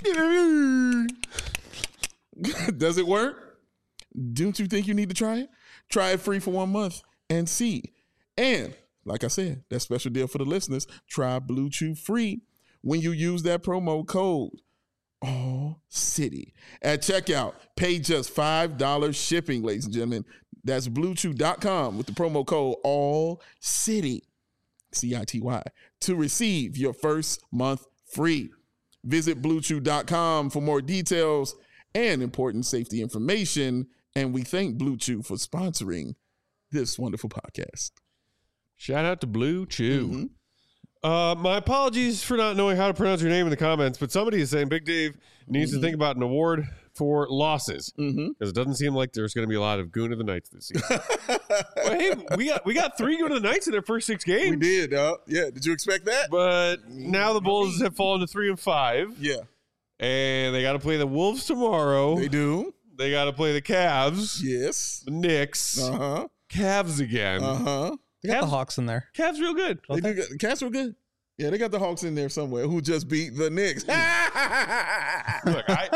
[SPEAKER 2] Does it work? Don't you think you need to try it? Try it free for one month and see. And like I said, that special deal for the listeners, try Blue Chew free when you use that promo code All City at checkout. Pay just five dollars shipping, ladies and gentlemen. That's blue chew dot com with the promo code All City, C I T Y, to receive your first month free. Visit blue chew dot com for more details and important safety information. And we thank Blue Chew for sponsoring this wonderful podcast.
[SPEAKER 1] Shout out to Blue Chew.
[SPEAKER 2] Mm-hmm.
[SPEAKER 1] Uh, my apologies for not knowing how to pronounce your name in the comments, but somebody is saying Big Dave needs
[SPEAKER 2] mm-hmm.
[SPEAKER 1] to think about an award for losses because
[SPEAKER 2] Mm-hmm.
[SPEAKER 1] it doesn't seem like there's going to be a lot of Goon of the Knights this season. Well, hey, we got we got three Goon of the Knights in their first six games.
[SPEAKER 2] We did, uh, yeah. Did you expect that?
[SPEAKER 1] But now the Bulls have fallen to three and five.
[SPEAKER 2] Yeah,
[SPEAKER 1] and they got to play the Wolves tomorrow.
[SPEAKER 2] they do.
[SPEAKER 1] They got to play the Cavs,
[SPEAKER 2] Yes.
[SPEAKER 1] the Knicks,
[SPEAKER 2] Uh huh.
[SPEAKER 1] Cavs again.
[SPEAKER 2] Uh huh.
[SPEAKER 3] They got
[SPEAKER 1] Cavs-
[SPEAKER 3] the Hawks in there.
[SPEAKER 1] Cavs real good.
[SPEAKER 2] They do. Got, the Cats were good. Yeah, they got the Hawks in there somewhere. Who just beat the Knicks?
[SPEAKER 1] Look, I,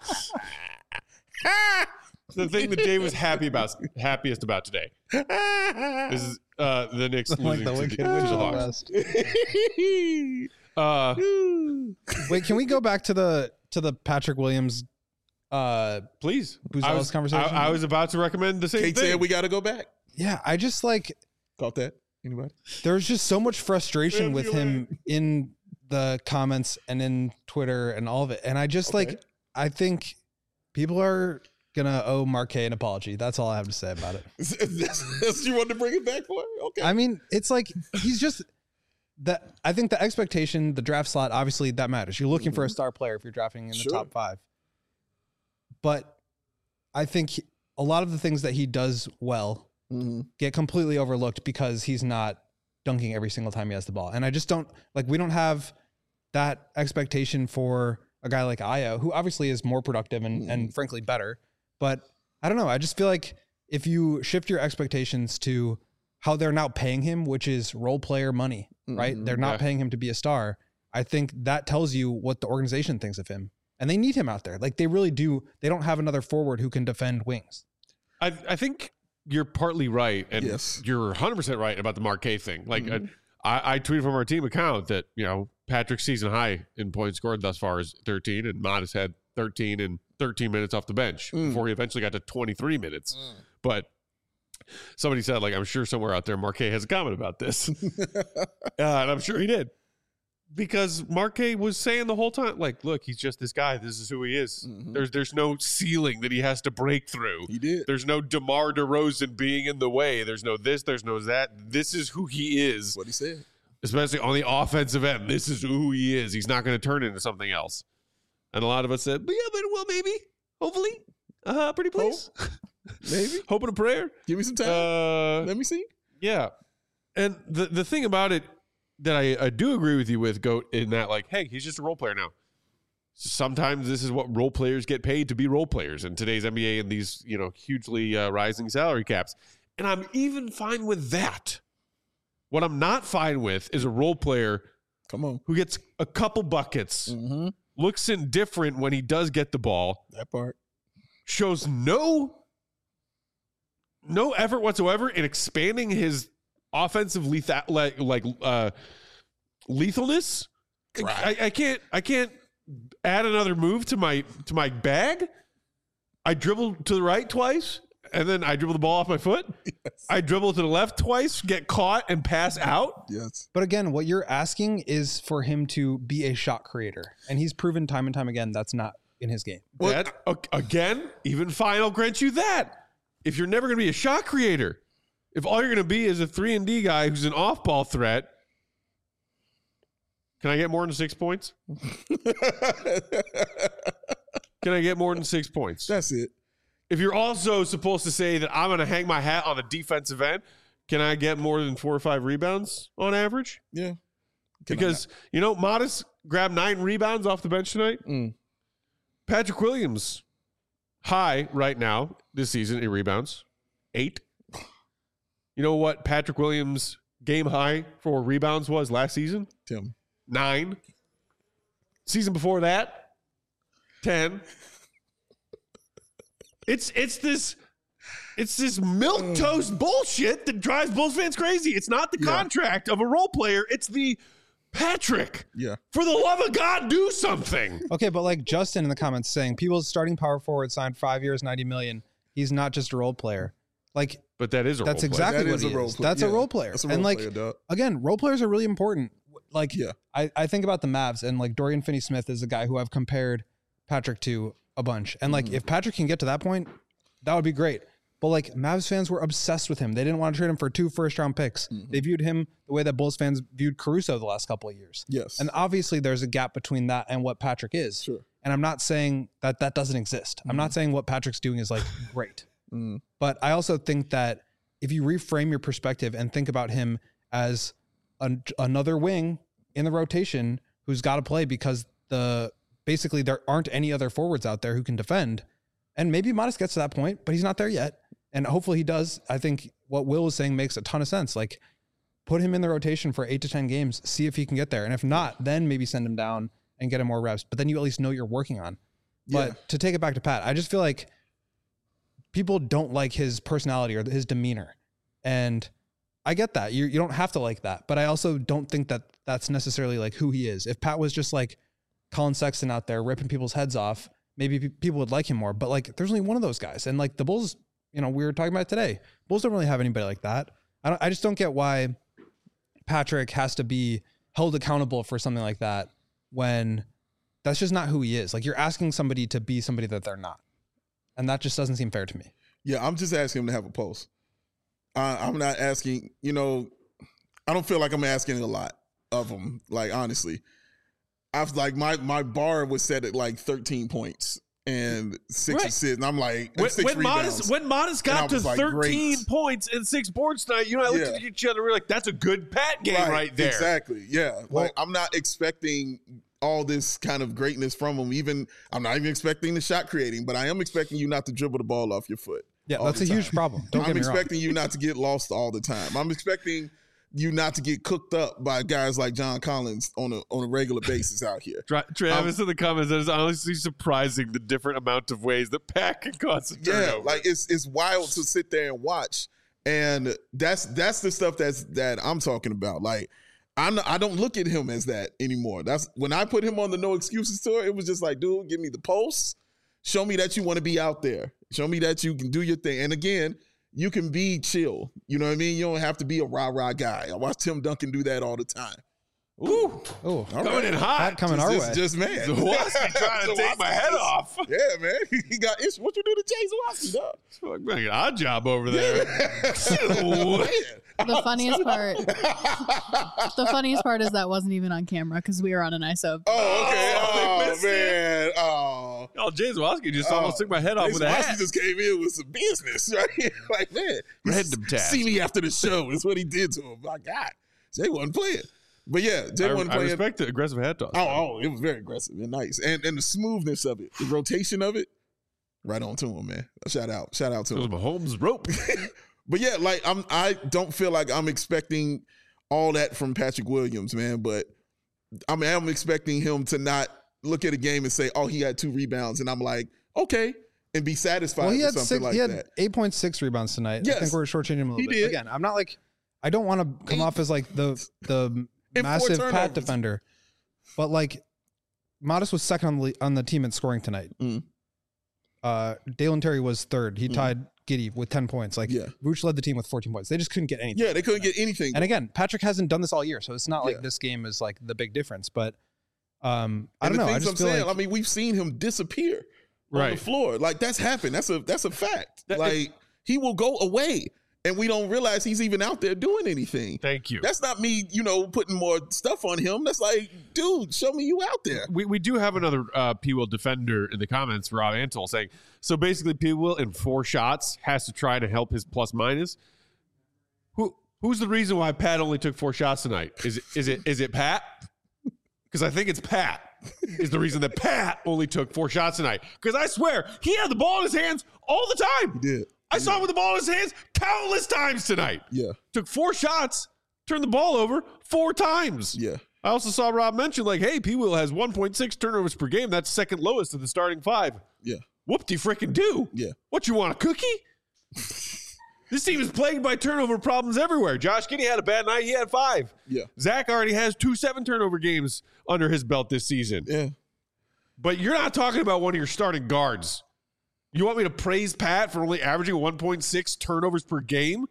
[SPEAKER 1] the thing that Dave was happy about, happiest about today, is uh, the Knicks
[SPEAKER 3] Like
[SPEAKER 1] losing
[SPEAKER 3] the
[SPEAKER 1] to,
[SPEAKER 3] Wicked
[SPEAKER 1] the, to
[SPEAKER 3] Witch
[SPEAKER 1] the
[SPEAKER 3] of the
[SPEAKER 1] Hawks.
[SPEAKER 3] West.
[SPEAKER 1] Uh,
[SPEAKER 3] Wait, can we go back to the to the Patrick Williams? Uh,
[SPEAKER 1] please,
[SPEAKER 3] Booz
[SPEAKER 1] I
[SPEAKER 3] Allis
[SPEAKER 1] was,
[SPEAKER 3] conversation?
[SPEAKER 1] I, I was about to recommend the same
[SPEAKER 2] Kate
[SPEAKER 1] thing.
[SPEAKER 2] said we got to go back.
[SPEAKER 3] yeah, I just like
[SPEAKER 2] Caught that? Anybody?
[SPEAKER 3] there's just so much frustration
[SPEAKER 2] Yeah,
[SPEAKER 3] with
[SPEAKER 2] you're
[SPEAKER 3] him in the comments and in Twitter and all of it, and I just
[SPEAKER 2] Okay.
[SPEAKER 3] like I think people are gonna owe Marquet an apology. That's all I have to say about it.
[SPEAKER 2] That's, that's you wanted to bring it back for? Okay.
[SPEAKER 3] I mean, it's like he's just that. I think the expectation, the draft slot, obviously that matters. You're looking for a star player if you're drafting in the
[SPEAKER 2] Sure.
[SPEAKER 3] top five. But I think he- a lot of the things that he does well
[SPEAKER 2] Mhm.
[SPEAKER 3] get completely overlooked because he's not dunking every single time he has the ball. And I just don't like. We don't have that expectation for a guy like Aya, who obviously is more productive and, and frankly better. But I don't know. I just feel like if you shift your expectations to how they're now paying him, which is role player money, right?
[SPEAKER 2] Mhm.
[SPEAKER 3] They're not
[SPEAKER 1] Yeah.
[SPEAKER 3] paying him to be a star. I think that tells you what the organization thinks of him. And they need him out there. Like they really do. They don't have another forward who can defend wings.
[SPEAKER 1] I, I think you're partly right, and
[SPEAKER 2] Yes.
[SPEAKER 1] you're one hundred percent right about the Marquet thing. Like,
[SPEAKER 2] Mhm.
[SPEAKER 1] uh, I, I tweeted from our team account that, you know, Patrick's season high in points scored thus far is thirteen, and Modest had thirteen and thirteen minutes off the bench
[SPEAKER 2] Mm.
[SPEAKER 1] before he eventually got to twenty-three minutes. But somebody said, like, I'm sure somewhere out there Marquet has a comment about this. uh, and I'm sure he did. Because Marquet was saying the whole time, like, look, he's just this guy. This is who he is.
[SPEAKER 2] Mhm.
[SPEAKER 1] There's there's no ceiling that he has to break through.
[SPEAKER 2] He did.
[SPEAKER 1] There's no DeMar DeRozan being in the way. There's no this. There's no that. This is who he is,
[SPEAKER 2] That's what he said.
[SPEAKER 1] especially on the offensive end. This is who he is. He's not going to turn into something else. And a lot of us said, yeah, but well, maybe, hopefully, uh, pretty please,
[SPEAKER 2] Maybe.
[SPEAKER 1] hope and a prayer.
[SPEAKER 2] Give me some time.
[SPEAKER 1] Uh,
[SPEAKER 2] Let me see.
[SPEAKER 1] yeah. And the the thing about it that I, I do agree with you with, Goat, in that, like, hey, he's just a role player now. Sometimes this is what role players get paid to be role players in today's N B A and these, you know, hugely uh, rising salary caps. And I'm even fine with that. What I'm not fine with is a role player
[SPEAKER 2] Come on.
[SPEAKER 1] who gets a couple buckets,
[SPEAKER 2] Mm-hmm.
[SPEAKER 1] looks indifferent when he does get the ball,
[SPEAKER 2] That part.
[SPEAKER 1] shows no no effort whatsoever in expanding his offensive lethal like like uh lethalness. I, I can't I can't add another move to my to my bag. I dribble to the right twice and then I dribble the ball off my foot.
[SPEAKER 2] Yes.
[SPEAKER 1] I dribble to the left twice, get caught and pass out.
[SPEAKER 2] Yes.
[SPEAKER 3] But again, what you're asking is for him to be a shot creator. And he's proven time and time again that's not in his game.
[SPEAKER 1] That, a- again, even fine, I'll grant you that. If you're never going to be a shot creator, if all you're going to be is a three and D guy who's an off-ball threat, can I get more than six points? Can I get more than six points?
[SPEAKER 2] That's it.
[SPEAKER 1] If you're also supposed to say that I'm going to hang my hat on the defensive end, can I get more than four or five rebounds on average?
[SPEAKER 2] Yeah. Can I
[SPEAKER 1] Because, you know, Modest grabbed nine rebounds off the bench tonight.
[SPEAKER 2] Mm.
[SPEAKER 1] Patrick Williams, high right now this season in rebounds, eight. You know what Patrick Williams' game high for rebounds was last season?
[SPEAKER 2] Tell me.
[SPEAKER 1] Nine. Season before that, ten. It's it's this it's this milquetoast bullshit that drives Bulls fans crazy. It's not the
[SPEAKER 2] Yeah.
[SPEAKER 1] contract of a role player. It's the Patrick.
[SPEAKER 2] Yeah.
[SPEAKER 1] For the love of God, do something.
[SPEAKER 3] Okay, but like Justin in the comments saying, people's starting power forward signed five years, ninety million. He's not just a role player. Like,
[SPEAKER 1] But that is a
[SPEAKER 3] that's
[SPEAKER 1] role player.
[SPEAKER 3] exactly
[SPEAKER 2] That
[SPEAKER 3] what
[SPEAKER 2] is
[SPEAKER 3] he
[SPEAKER 2] a role
[SPEAKER 3] is.
[SPEAKER 2] player.
[SPEAKER 3] That's a
[SPEAKER 2] Yeah,
[SPEAKER 3] role player.
[SPEAKER 2] that's a
[SPEAKER 3] and
[SPEAKER 2] role
[SPEAKER 3] like,
[SPEAKER 2] player, dog.
[SPEAKER 3] again, role players are really important. Like,
[SPEAKER 2] Yeah.
[SPEAKER 3] I, I think about the Mavs, and like Dorian Finney-Smith is a guy who I've compared Patrick to a bunch. And like,
[SPEAKER 2] Mm-hmm.
[SPEAKER 3] if Patrick can get to that point, that would be great. But like, Mavs fans were obsessed with him. They didn't want to trade him for two first-round picks.
[SPEAKER 2] Mm-hmm.
[SPEAKER 3] They viewed him the way that Bulls fans viewed Caruso the last couple of years.
[SPEAKER 2] Yes.
[SPEAKER 3] And obviously, there's a gap between that and what Patrick is.
[SPEAKER 2] Sure.
[SPEAKER 3] And I'm not saying that that doesn't exist. I'm not saying what Patrick's doing is like great.
[SPEAKER 2] Mm.
[SPEAKER 3] But I also think that if you reframe your perspective and think about him as an, another wing in the rotation who's got to play because the basically there aren't any other forwards out there who can defend, and maybe Modest gets to that point, but he's not there yet. And hopefully he does. I think what Will is saying makes a ton of sense. Like, put him in the rotation for eight to ten games, see if he can get there. And if not, then maybe send him down and get him more reps. But then you at least know you're working on. But
[SPEAKER 2] Yeah.
[SPEAKER 3] to take it back to Pat, I just feel like people don't like his personality or his demeanor. And I get that. You you don't have to like that. But I also don't think that that's necessarily like who he is. If Pat was just like Colin Sexton out there ripping people's heads off, maybe pe- people would like him more. But like, there's only one of those guys. And like the Bulls, you know, we were talking about it today. Bulls don't really have anybody like that. I don't, I just don't get why Patrick has to be held accountable for something like that when that's just not who he is. Like, you're asking somebody to be somebody that they're not. And that just doesn't seem fair to me.
[SPEAKER 2] Yeah, I'm just asking him to have a post. I, I'm not asking, you know, I don't feel like I'm asking a lot of him, like, honestly. I've like, my, my bar was set at like thirteen points and six
[SPEAKER 1] Right.
[SPEAKER 2] assists. And I'm like,
[SPEAKER 1] When,
[SPEAKER 2] six
[SPEAKER 1] when
[SPEAKER 2] rebounds.
[SPEAKER 1] Modest when Modest
[SPEAKER 2] And I
[SPEAKER 1] got to
[SPEAKER 2] was like,
[SPEAKER 1] thirteen
[SPEAKER 2] great.
[SPEAKER 1] points and six boards tonight, you know, I looked
[SPEAKER 2] Yeah.
[SPEAKER 1] at each other. We were like, "That's a good Pat game right, there."
[SPEAKER 2] Exactly. Yeah. Like, I'm not expecting all this kind of greatness from him. Even I'm not even expecting the shot creating, but I am expecting you not to dribble the ball off your foot.
[SPEAKER 3] Yeah,
[SPEAKER 2] all
[SPEAKER 3] that's
[SPEAKER 2] the
[SPEAKER 3] a huge
[SPEAKER 2] time.
[SPEAKER 3] problem. Don't
[SPEAKER 2] I'm
[SPEAKER 3] get me wrong.
[SPEAKER 2] expecting you not to get lost all the time. I'm expecting you not to get cooked up by guys like John Collins on a on a regular basis out here.
[SPEAKER 1] Tra- Travis in the comments says, "It's honestly surprising the different amount of ways that Pat can cause a
[SPEAKER 2] Yeah,
[SPEAKER 1] turnover."
[SPEAKER 2] like it's it's wild to sit there and watch, and that's that's the stuff that's that I'm talking about. Like, I'm not, I don't look at him as that anymore. That's when I put him on the no excuses tour. It was just like, dude, give me the posts, show me that you want to be out there, show me that you can do your thing. And again, you can be chill. You know what I mean? You don't have to be a rah rah guy. I watch Tim Duncan do that all the time.
[SPEAKER 1] Ooh,
[SPEAKER 3] Oh,
[SPEAKER 1] coming in hot.
[SPEAKER 3] Pat coming
[SPEAKER 2] just,
[SPEAKER 3] our
[SPEAKER 2] just,
[SPEAKER 3] way.
[SPEAKER 2] just man.
[SPEAKER 1] Zawoski trying to take my
[SPEAKER 2] Zawoski
[SPEAKER 1] head
[SPEAKER 2] just-
[SPEAKER 1] off.
[SPEAKER 2] Yeah, man. He got issues. What you do to Jay Zawoski, dog?
[SPEAKER 1] Like, man, an odd job over there.
[SPEAKER 4] The funniest part, the funniest part is that wasn't even on camera because we were on an I S O.
[SPEAKER 2] Oh, okay.
[SPEAKER 1] Oh, they
[SPEAKER 2] Oh,
[SPEAKER 1] missed
[SPEAKER 2] man. Oh.
[SPEAKER 1] Oh, James Waski just
[SPEAKER 2] Oh.
[SPEAKER 1] almost took my head off
[SPEAKER 2] Jay
[SPEAKER 1] with a
[SPEAKER 2] Zawoski
[SPEAKER 1] hat.
[SPEAKER 2] just came in with some business, right? Like, man. he
[SPEAKER 1] Random
[SPEAKER 2] s-
[SPEAKER 1] task.
[SPEAKER 2] See me after the show is what he did to him. My God. Jay wasn't playing. But yeah, Jay
[SPEAKER 1] I,
[SPEAKER 2] wasn't
[SPEAKER 1] I
[SPEAKER 2] playing.
[SPEAKER 1] respect the aggressive hat toss.
[SPEAKER 2] Oh, oh, it was very aggressive and nice. And and the smoothness of it, the rotation of it, right on to him, man. Shout out. Shout out to
[SPEAKER 1] It was
[SPEAKER 2] him.
[SPEAKER 1] Mahomes' rope.
[SPEAKER 2] But yeah, like I'm I don't feel like I'm expecting all that from Patrick Williams, man. But I mean, I'm expecting him to not look at a game and say, "Oh, he had two rebounds," and I'm like, "Okay," and be satisfied
[SPEAKER 3] Well, he
[SPEAKER 2] with
[SPEAKER 3] had
[SPEAKER 2] something
[SPEAKER 3] six.
[SPEAKER 2] like
[SPEAKER 3] he had
[SPEAKER 2] that.
[SPEAKER 3] eight point six rebounds tonight. I
[SPEAKER 2] Yes.
[SPEAKER 3] think we're shortchanging him a little
[SPEAKER 2] He
[SPEAKER 3] bit.
[SPEAKER 2] did.
[SPEAKER 3] Again, I'm not like I don't want to come
[SPEAKER 2] Eight-
[SPEAKER 3] off as like the the
[SPEAKER 2] And four
[SPEAKER 3] massive
[SPEAKER 2] turnovers.
[SPEAKER 3] Pat defender, but like Modest was second on the on the team in scoring tonight.
[SPEAKER 2] Mm.
[SPEAKER 3] Uh, Dalen Terry was third. He
[SPEAKER 2] Mm.
[SPEAKER 3] tied Giddey with ten points. Like
[SPEAKER 2] Yeah.
[SPEAKER 3] Vooch led the team with fourteen points. They just couldn't get anything.
[SPEAKER 2] Yeah, they couldn't get anything.
[SPEAKER 3] And again, Patrick hasn't done this all year, so it's not like
[SPEAKER 2] Yeah.
[SPEAKER 3] this game is like the big difference. But um, I
[SPEAKER 2] And
[SPEAKER 3] don't
[SPEAKER 2] the
[SPEAKER 3] know. I
[SPEAKER 2] things
[SPEAKER 3] just
[SPEAKER 2] I'm
[SPEAKER 3] feel
[SPEAKER 2] saying,
[SPEAKER 3] like
[SPEAKER 2] I mean, we've seen him disappear on
[SPEAKER 1] Right.
[SPEAKER 2] the floor. Like that's happened. That's a that's a fact.
[SPEAKER 1] That-
[SPEAKER 2] like he will go away, and we don't realize he's even out there doing anything.
[SPEAKER 1] Thank you.
[SPEAKER 2] That's not me, you know, putting more stuff on him. That's like, dude, show me you out there.
[SPEAKER 1] We, we do have another uh, P. Will defender in the comments, Rob Antol, saying, so basically P. Will in four shots has to try to help his plus minus. Who Who's the reason why Pat only took four shots tonight? Is it is it is it Pat? Because I think it's Pat is the reason that Pat only took four shots tonight. Because I swear, he had the ball in his hands all the time.
[SPEAKER 2] He did.
[SPEAKER 1] I saw him with the ball in his hands countless times tonight.
[SPEAKER 2] Yeah,
[SPEAKER 1] Took four shots, turned the ball over four times.
[SPEAKER 2] yeah.
[SPEAKER 1] I also saw Rob mention, like, hey, P. Will has one point six turnovers per game. That's second lowest of the starting five.
[SPEAKER 2] Yeah.
[SPEAKER 1] Whoop-de frickin' do.
[SPEAKER 2] Yeah.
[SPEAKER 1] What, you want a cookie? This team is plagued by turnover problems everywhere. Josh Giddey had a bad night. He had five.
[SPEAKER 2] Yeah.
[SPEAKER 1] Zach already has two seven turnover games under his belt this season.
[SPEAKER 2] Yeah.
[SPEAKER 1] But you're not talking about one of your starting guards. You want me to praise Pat for only averaging one point six turnovers per game?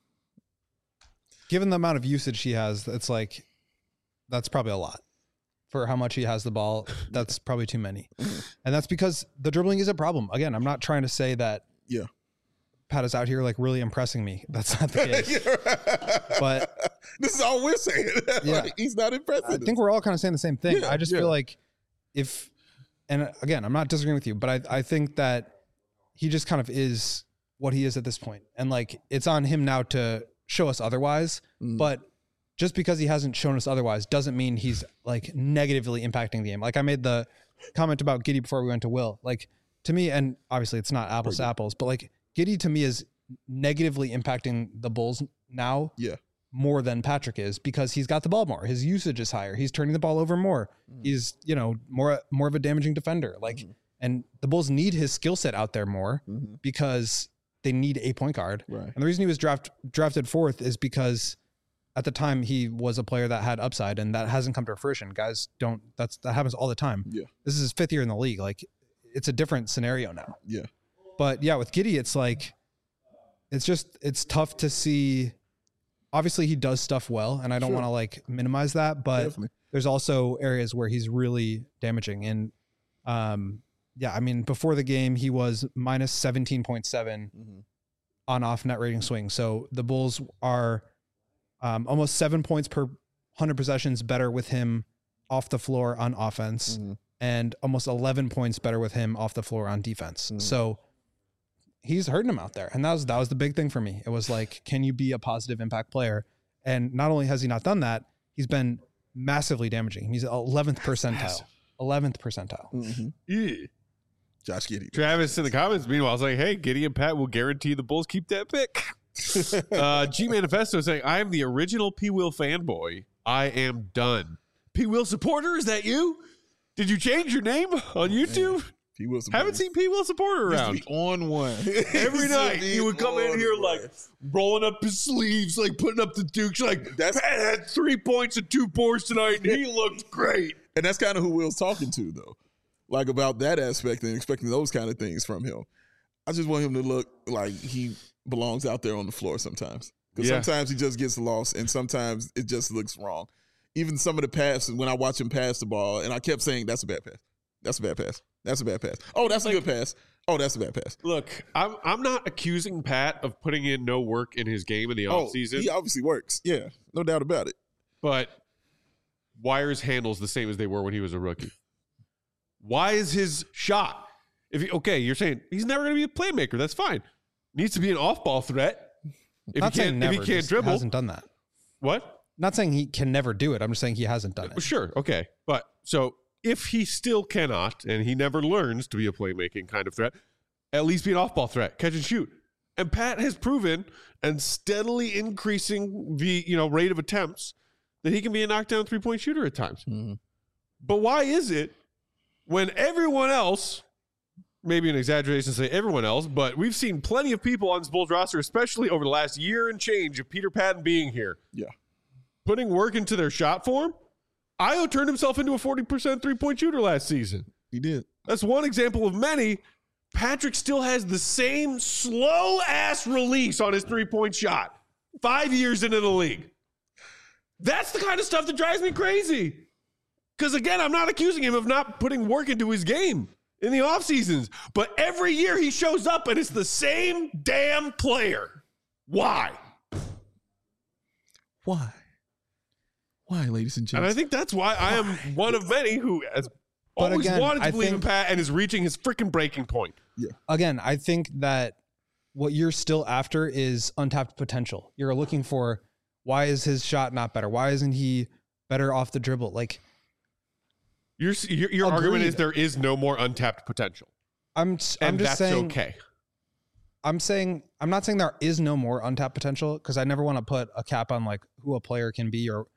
[SPEAKER 3] Given the amount of usage he has, it's like, that's probably a lot. For how much he has the ball, that's probably too many. And that's because the dribbling is a problem. Again, I'm not trying to say that
[SPEAKER 2] Yeah.
[SPEAKER 3] Pat is out here like really impressing me. That's not the case. But
[SPEAKER 2] this is all we're saying.
[SPEAKER 3] Yeah.
[SPEAKER 2] Like, he's not impressive.
[SPEAKER 3] I think we're all kind of saying the same thing.
[SPEAKER 2] Yeah,
[SPEAKER 3] I just
[SPEAKER 2] yeah.
[SPEAKER 3] feel like if, and again, I'm not disagreeing with you, but I, I think that he just kind of is what he is at this point. And like, it's on him now to show us otherwise.
[SPEAKER 2] Mm.
[SPEAKER 3] But just because he hasn't shown us otherwise doesn't mean he's like negatively impacting the game. Like I made the comment about Giddey before we went to Will. Like to me, and obviously it's not apples to apples, but like Giddey to me is negatively impacting the Bulls now
[SPEAKER 2] Yeah.
[SPEAKER 3] more than Patrick is because he's got the ball more. His usage is higher. He's turning the ball over more.
[SPEAKER 2] Mm.
[SPEAKER 3] He's, you know, more more of a damaging defender. Like,
[SPEAKER 2] Mm-hmm.
[SPEAKER 3] and the Bulls need his skill set out there more
[SPEAKER 2] Mm-hmm.
[SPEAKER 3] because they need a point guard.
[SPEAKER 2] Right.
[SPEAKER 3] And the reason he was draft, drafted fourth is because at the time he was a player that had upside, and that hasn't come to fruition. Guys don't. That's that happens all the time.
[SPEAKER 2] Yeah.
[SPEAKER 3] This is his fifth year in the league. Like, it's a different scenario now.
[SPEAKER 2] Yeah.
[SPEAKER 3] But yeah, with Giddey, it's like, it's just, it's tough to see. Obviously, he does stuff well, and I don't
[SPEAKER 2] Sure.
[SPEAKER 3] want to like minimize that, but
[SPEAKER 2] Definitely.
[SPEAKER 3] there's also areas where he's really damaging. And um, yeah, I mean, before the game, he was minus seventeen point seven
[SPEAKER 2] Mhm.
[SPEAKER 3] on off net rating swing. So the Bulls are um, almost seven points per one hundred possessions better with him off the floor on offense,
[SPEAKER 2] Mhm.
[SPEAKER 3] and almost eleven points better with him off the floor on defense.
[SPEAKER 2] Mhm.
[SPEAKER 3] So he's hurting him out there. And that was, that was the big thing for me. It was like, can you be a positive impact player? And not only has he not done that, he's been massively damaging. He's eleventh percentile, eleventh percentile.
[SPEAKER 2] Mhm.
[SPEAKER 1] Yeah.
[SPEAKER 2] Josh Giddey.
[SPEAKER 1] Travis in the comments, meanwhile, is like, hey, Giddey and Pat will guarantee the Bulls keep that pick. uh, G Manifesto saying, I am the original P. Will fanboy. I am done. P. Will supporter, is that you? Did you change your name on YouTube?
[SPEAKER 2] P. Will
[SPEAKER 1] Haven't seen P. Will supporter
[SPEAKER 2] Used to
[SPEAKER 1] around.
[SPEAKER 2] be on one
[SPEAKER 1] Every night he would come in
[SPEAKER 2] on
[SPEAKER 1] here
[SPEAKER 2] one.
[SPEAKER 1] like rolling up his sleeves, like putting up the dukes. Like,
[SPEAKER 2] That's-
[SPEAKER 1] Pat had three points and two boards tonight, and he looked great.
[SPEAKER 2] And that's kind of who Will's talking to, though. Like about that aspect and expecting those kind of things from him. I just want him to look like he belongs out there on the floor sometimes. Because
[SPEAKER 1] Yeah.
[SPEAKER 2] sometimes he just gets lost, and sometimes it just looks wrong. Even some of the passes, when I watch him pass the ball, and I kept saying, that's a bad pass. That's a bad pass. That's a bad pass. Oh, that's a good pass. Oh, that's a bad pass.
[SPEAKER 1] Look, I'm I'm not accusing Pat of putting in no work in his game in the
[SPEAKER 2] Oh,
[SPEAKER 1] offseason,
[SPEAKER 2] he obviously works. Yeah, no doubt about it.
[SPEAKER 1] but why are his handles the same as they were when he was a rookie? Why is his shot? If he, okay, you're saying he's never going to be a playmaker. That's fine. Needs to be an off-ball threat. If
[SPEAKER 3] Not
[SPEAKER 1] he
[SPEAKER 3] saying
[SPEAKER 1] can't,
[SPEAKER 3] never,
[SPEAKER 1] if he can't
[SPEAKER 3] just
[SPEAKER 1] dribble,
[SPEAKER 3] hasn't done that.
[SPEAKER 1] what?
[SPEAKER 3] Not saying he can never do it. I'm just saying he hasn't done it.
[SPEAKER 1] Sure, okay, but so if he still cannot, and he never learns to be a playmaking kind of threat, at least be an off-ball threat, catch and shoot. And Pat has proven, and steadily increasing the you know rate of attempts, that he can be a knockdown three-point shooter at times.
[SPEAKER 2] Mm-hmm.
[SPEAKER 1] But why is it when everyone else, maybe an exaggeration to say everyone else, but we've seen plenty of people on this Bulls roster, especially over the last year and change of Peter Patton being here,
[SPEAKER 2] Yeah.
[SPEAKER 1] putting work into their shot form. Io turned himself into a forty percent three-point shooter last season.
[SPEAKER 2] He did.
[SPEAKER 1] That's one example of many. Patrick still has the same slow-ass release on his three-point shot five years into the league. That's the kind of stuff that drives me crazy. Because, again, I'm not accusing him of not putting work into his game in the off seasons, but every year he shows up and it's the same damn player. Why?
[SPEAKER 2] Why? Why, ladies and
[SPEAKER 1] And
[SPEAKER 2] gentlemen?
[SPEAKER 1] I think that's why I am one of many who has
[SPEAKER 3] But
[SPEAKER 1] always
[SPEAKER 3] again,
[SPEAKER 1] wanted to
[SPEAKER 3] I
[SPEAKER 1] believe in
[SPEAKER 3] think-
[SPEAKER 1] Pat and is reaching his freaking breaking point.
[SPEAKER 3] Again, I think that what you're still after is untapped potential. You're looking for, why is his shot not better? Why isn't he better off the dribble? Like,
[SPEAKER 1] Your your, your argument
[SPEAKER 3] Agreed.
[SPEAKER 1] is there is no more untapped potential,
[SPEAKER 3] I'm, I'm
[SPEAKER 1] and
[SPEAKER 3] just
[SPEAKER 1] that's
[SPEAKER 3] saying,
[SPEAKER 1] okay.
[SPEAKER 3] I'm saying, I'm not saying there is no more untapped potential, because I never want to put a cap on like who a player can be or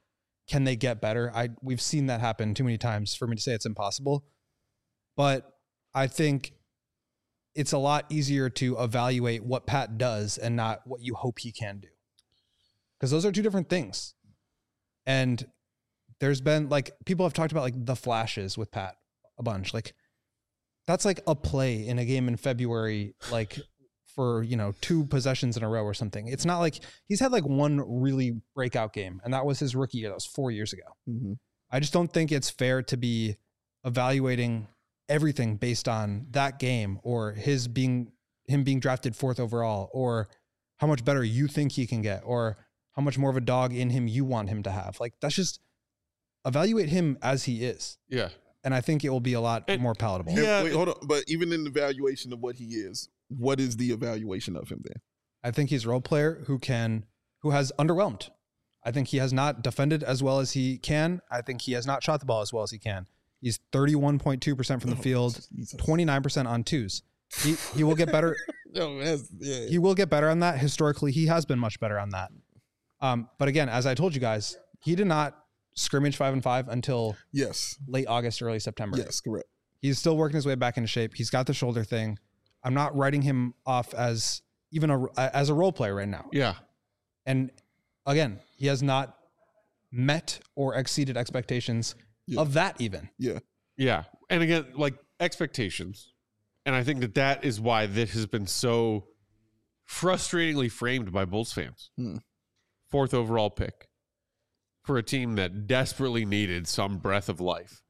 [SPEAKER 3] can they get better? I we've seen that happen too many times for me to say it's impossible. But I think it's a lot easier to evaluate what Pat does and not what you hope he can do. Because those are two different things. And there's been like, people have talked about like the flashes with Pat a bunch. Like that's like a play in a game in February, like for, you know, two possessions in a row or something. It's not like he's had like one really breakout game, and that was his rookie year. That was four years ago. Mm-hmm. I just don't think it's fair to be evaluating everything based on that game or his being him being drafted fourth overall, or how much better you think he can get, or how much more of a dog in him you want him to have. Like that's just evaluate him as he is.
[SPEAKER 1] Yeah.
[SPEAKER 3] And I think it will be a lot and, more palatable.
[SPEAKER 2] Yeah. Wait, hold on. But even in the evaluation of what he is, what is the evaluation of him then?
[SPEAKER 3] I think he's a role player who can, who has underwhelmed. I think he has not defended as well as he can. I think he has not shot the ball as well as he can. He's thirty-one point two percent from the field, twenty-nine percent on twos. He he will get better.
[SPEAKER 2] no, that's, yeah.
[SPEAKER 3] He will get better on that. Historically, he has been much better on that. Um, but again, as I told you guys, he did not scrimmage five and five until
[SPEAKER 2] yes
[SPEAKER 3] late August, early September.
[SPEAKER 2] Yes, correct.
[SPEAKER 3] He's still working his way back into shape. He's got the shoulder thing. I'm not writing him off as even a as a role player right now.
[SPEAKER 1] Yeah.
[SPEAKER 3] And again, he has not met or exceeded expectations yeah. of that even.
[SPEAKER 2] Yeah.
[SPEAKER 1] Yeah. And again, like expectations. And I think that that is why this has been so frustratingly framed by Bulls fans.
[SPEAKER 2] Hmm.
[SPEAKER 1] Fourth overall pick for a team that desperately needed some breath of life.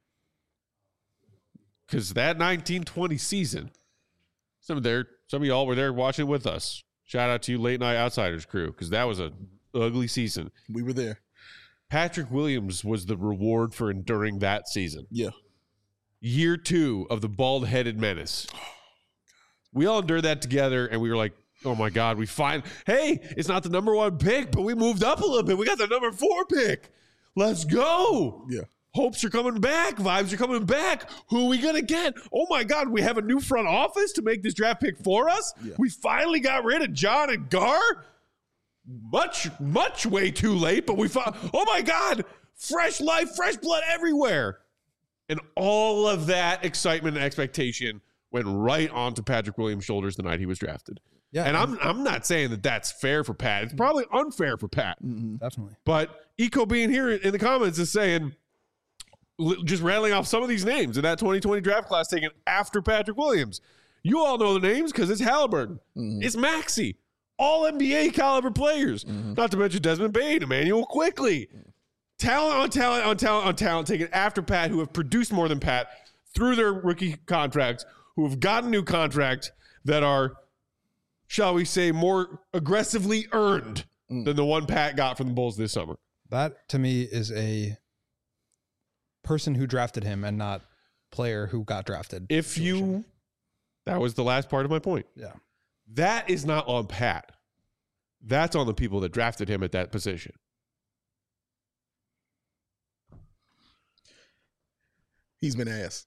[SPEAKER 1] Because that nineteen twenty season, some of their some of y'all were there watching with us. Shout out to you, Late Night Outsiders crew, because that was a ugly season.
[SPEAKER 2] We were there.
[SPEAKER 1] Patrick Williams was the reward for enduring that season.
[SPEAKER 2] Yeah.
[SPEAKER 1] Year two of the bald-headed menace. We all endured that together, and we were like, oh, my God, we find, hey, it's not the number one pick, but we moved up a little bit. We got the number four pick. Let's go.
[SPEAKER 2] Yeah.
[SPEAKER 1] Hopes are coming back. Vibes are coming back. Who are we going to get? Oh, my God, we have a new front office to make this draft pick for us. Yeah. We finally got rid of John and Gar. Much, much way too late, but we found, oh, my God, fresh life, fresh blood everywhere. And all of that excitement and expectation went right onto Patrick Williams' shoulders the night he was drafted. Yeah, and I'm I'm not saying that that's fair for Pat. It's probably unfair for Pat.
[SPEAKER 3] Mm-hmm. Definitely.
[SPEAKER 1] But Eco being here in the comments is saying, just rattling off some of these names in that twenty twenty draft class taken after Patrick Williams. You all know the names because it's Halliburton. Mm-hmm. It's Maxey. All N B A caliber players. Mm-hmm. Not to mention Desmond Bane, Emmanuel Quickley. Talent on talent on talent on talent taken after Pat, who have produced more than Pat through their rookie contracts, who have gotten new contracts that are, shall we say, more aggressively earned mm. than the one Pat got from the Bulls this summer.
[SPEAKER 3] That, to me, is a person who drafted him and not player who got drafted.
[SPEAKER 1] If you, that was the last part of my point.
[SPEAKER 3] Yeah.
[SPEAKER 1] That is not on Pat. That's on the people that drafted him at that position.
[SPEAKER 2] He's been ass.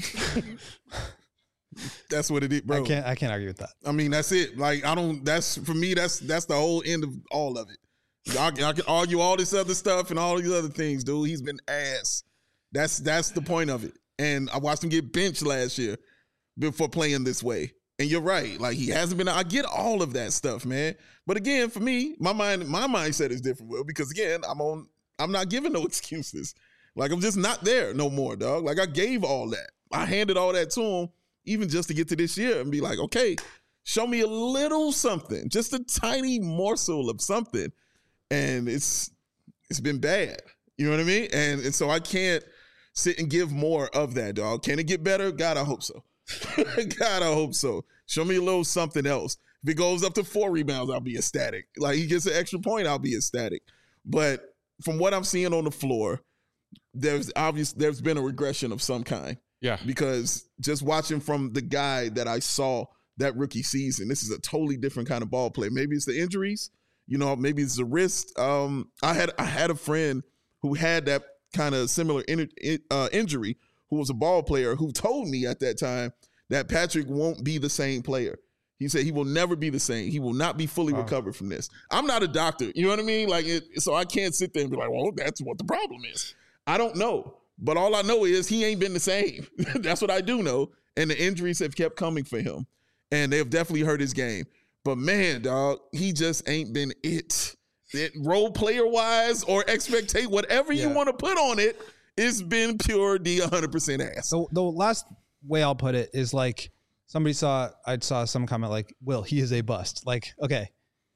[SPEAKER 2] That's what it is, bro.
[SPEAKER 3] I can't I can't argue with that.
[SPEAKER 2] I mean, that's it. Like, I don't, that's, for me, that's that's the whole end of all of it. I, I can argue all this other stuff and all these other things, dude. He's been ass. That's that's the point of it. And I watched him get benched last year before playing this way. And you're right. Like, he hasn't been, I get all of that stuff, man. But again, for me, my mind, my mindset is different, Will, because again, I'm on, I'm not giving no excuses. Like, I'm just not there no more, dog. Like, I gave all that. I handed all that to him, even just to get to this year and be like, okay, show me a little something, just a tiny morsel of something. And it's it's been bad. You know what I mean? And, and so I can't sit and give more of that, dog. Can it get better? God, I hope so. God, I hope so. Show me a little something else. If it goes up to four rebounds, I'll be ecstatic. Like, he gets an extra point, I'll be ecstatic. But from what I'm seeing on the floor, there's obvious there's been a regression of some kind.
[SPEAKER 1] Yeah.
[SPEAKER 2] Because just watching from the guy that I saw that rookie season, this is a totally different kind of ball player. Maybe it's the injuries, you know, maybe it's the wrist. Um, I had I had a friend who had that kind of similar in, uh, injury, who was a ball player, who told me at that time that Patrick won't be the same player. He said he will never be the same. He will not be fully
[SPEAKER 3] Wow.
[SPEAKER 2] recovered from this. I'm not a doctor. You know what I mean? Like, it, so I can't sit there and be like, well, that's what the problem is. I don't know. But all I know is he ain't been the same. That's what I do know. And the injuries have kept coming for him. And they have definitely hurt his game. But man, dog, he just ain't been it. it role player wise or expectate, whatever you
[SPEAKER 3] Yeah.
[SPEAKER 2] want to put on it, it's been pure D one hundred percent ass.
[SPEAKER 3] So the last way I'll put it is like somebody saw, I saw some comment like, Will, he is a bust. Like, okay,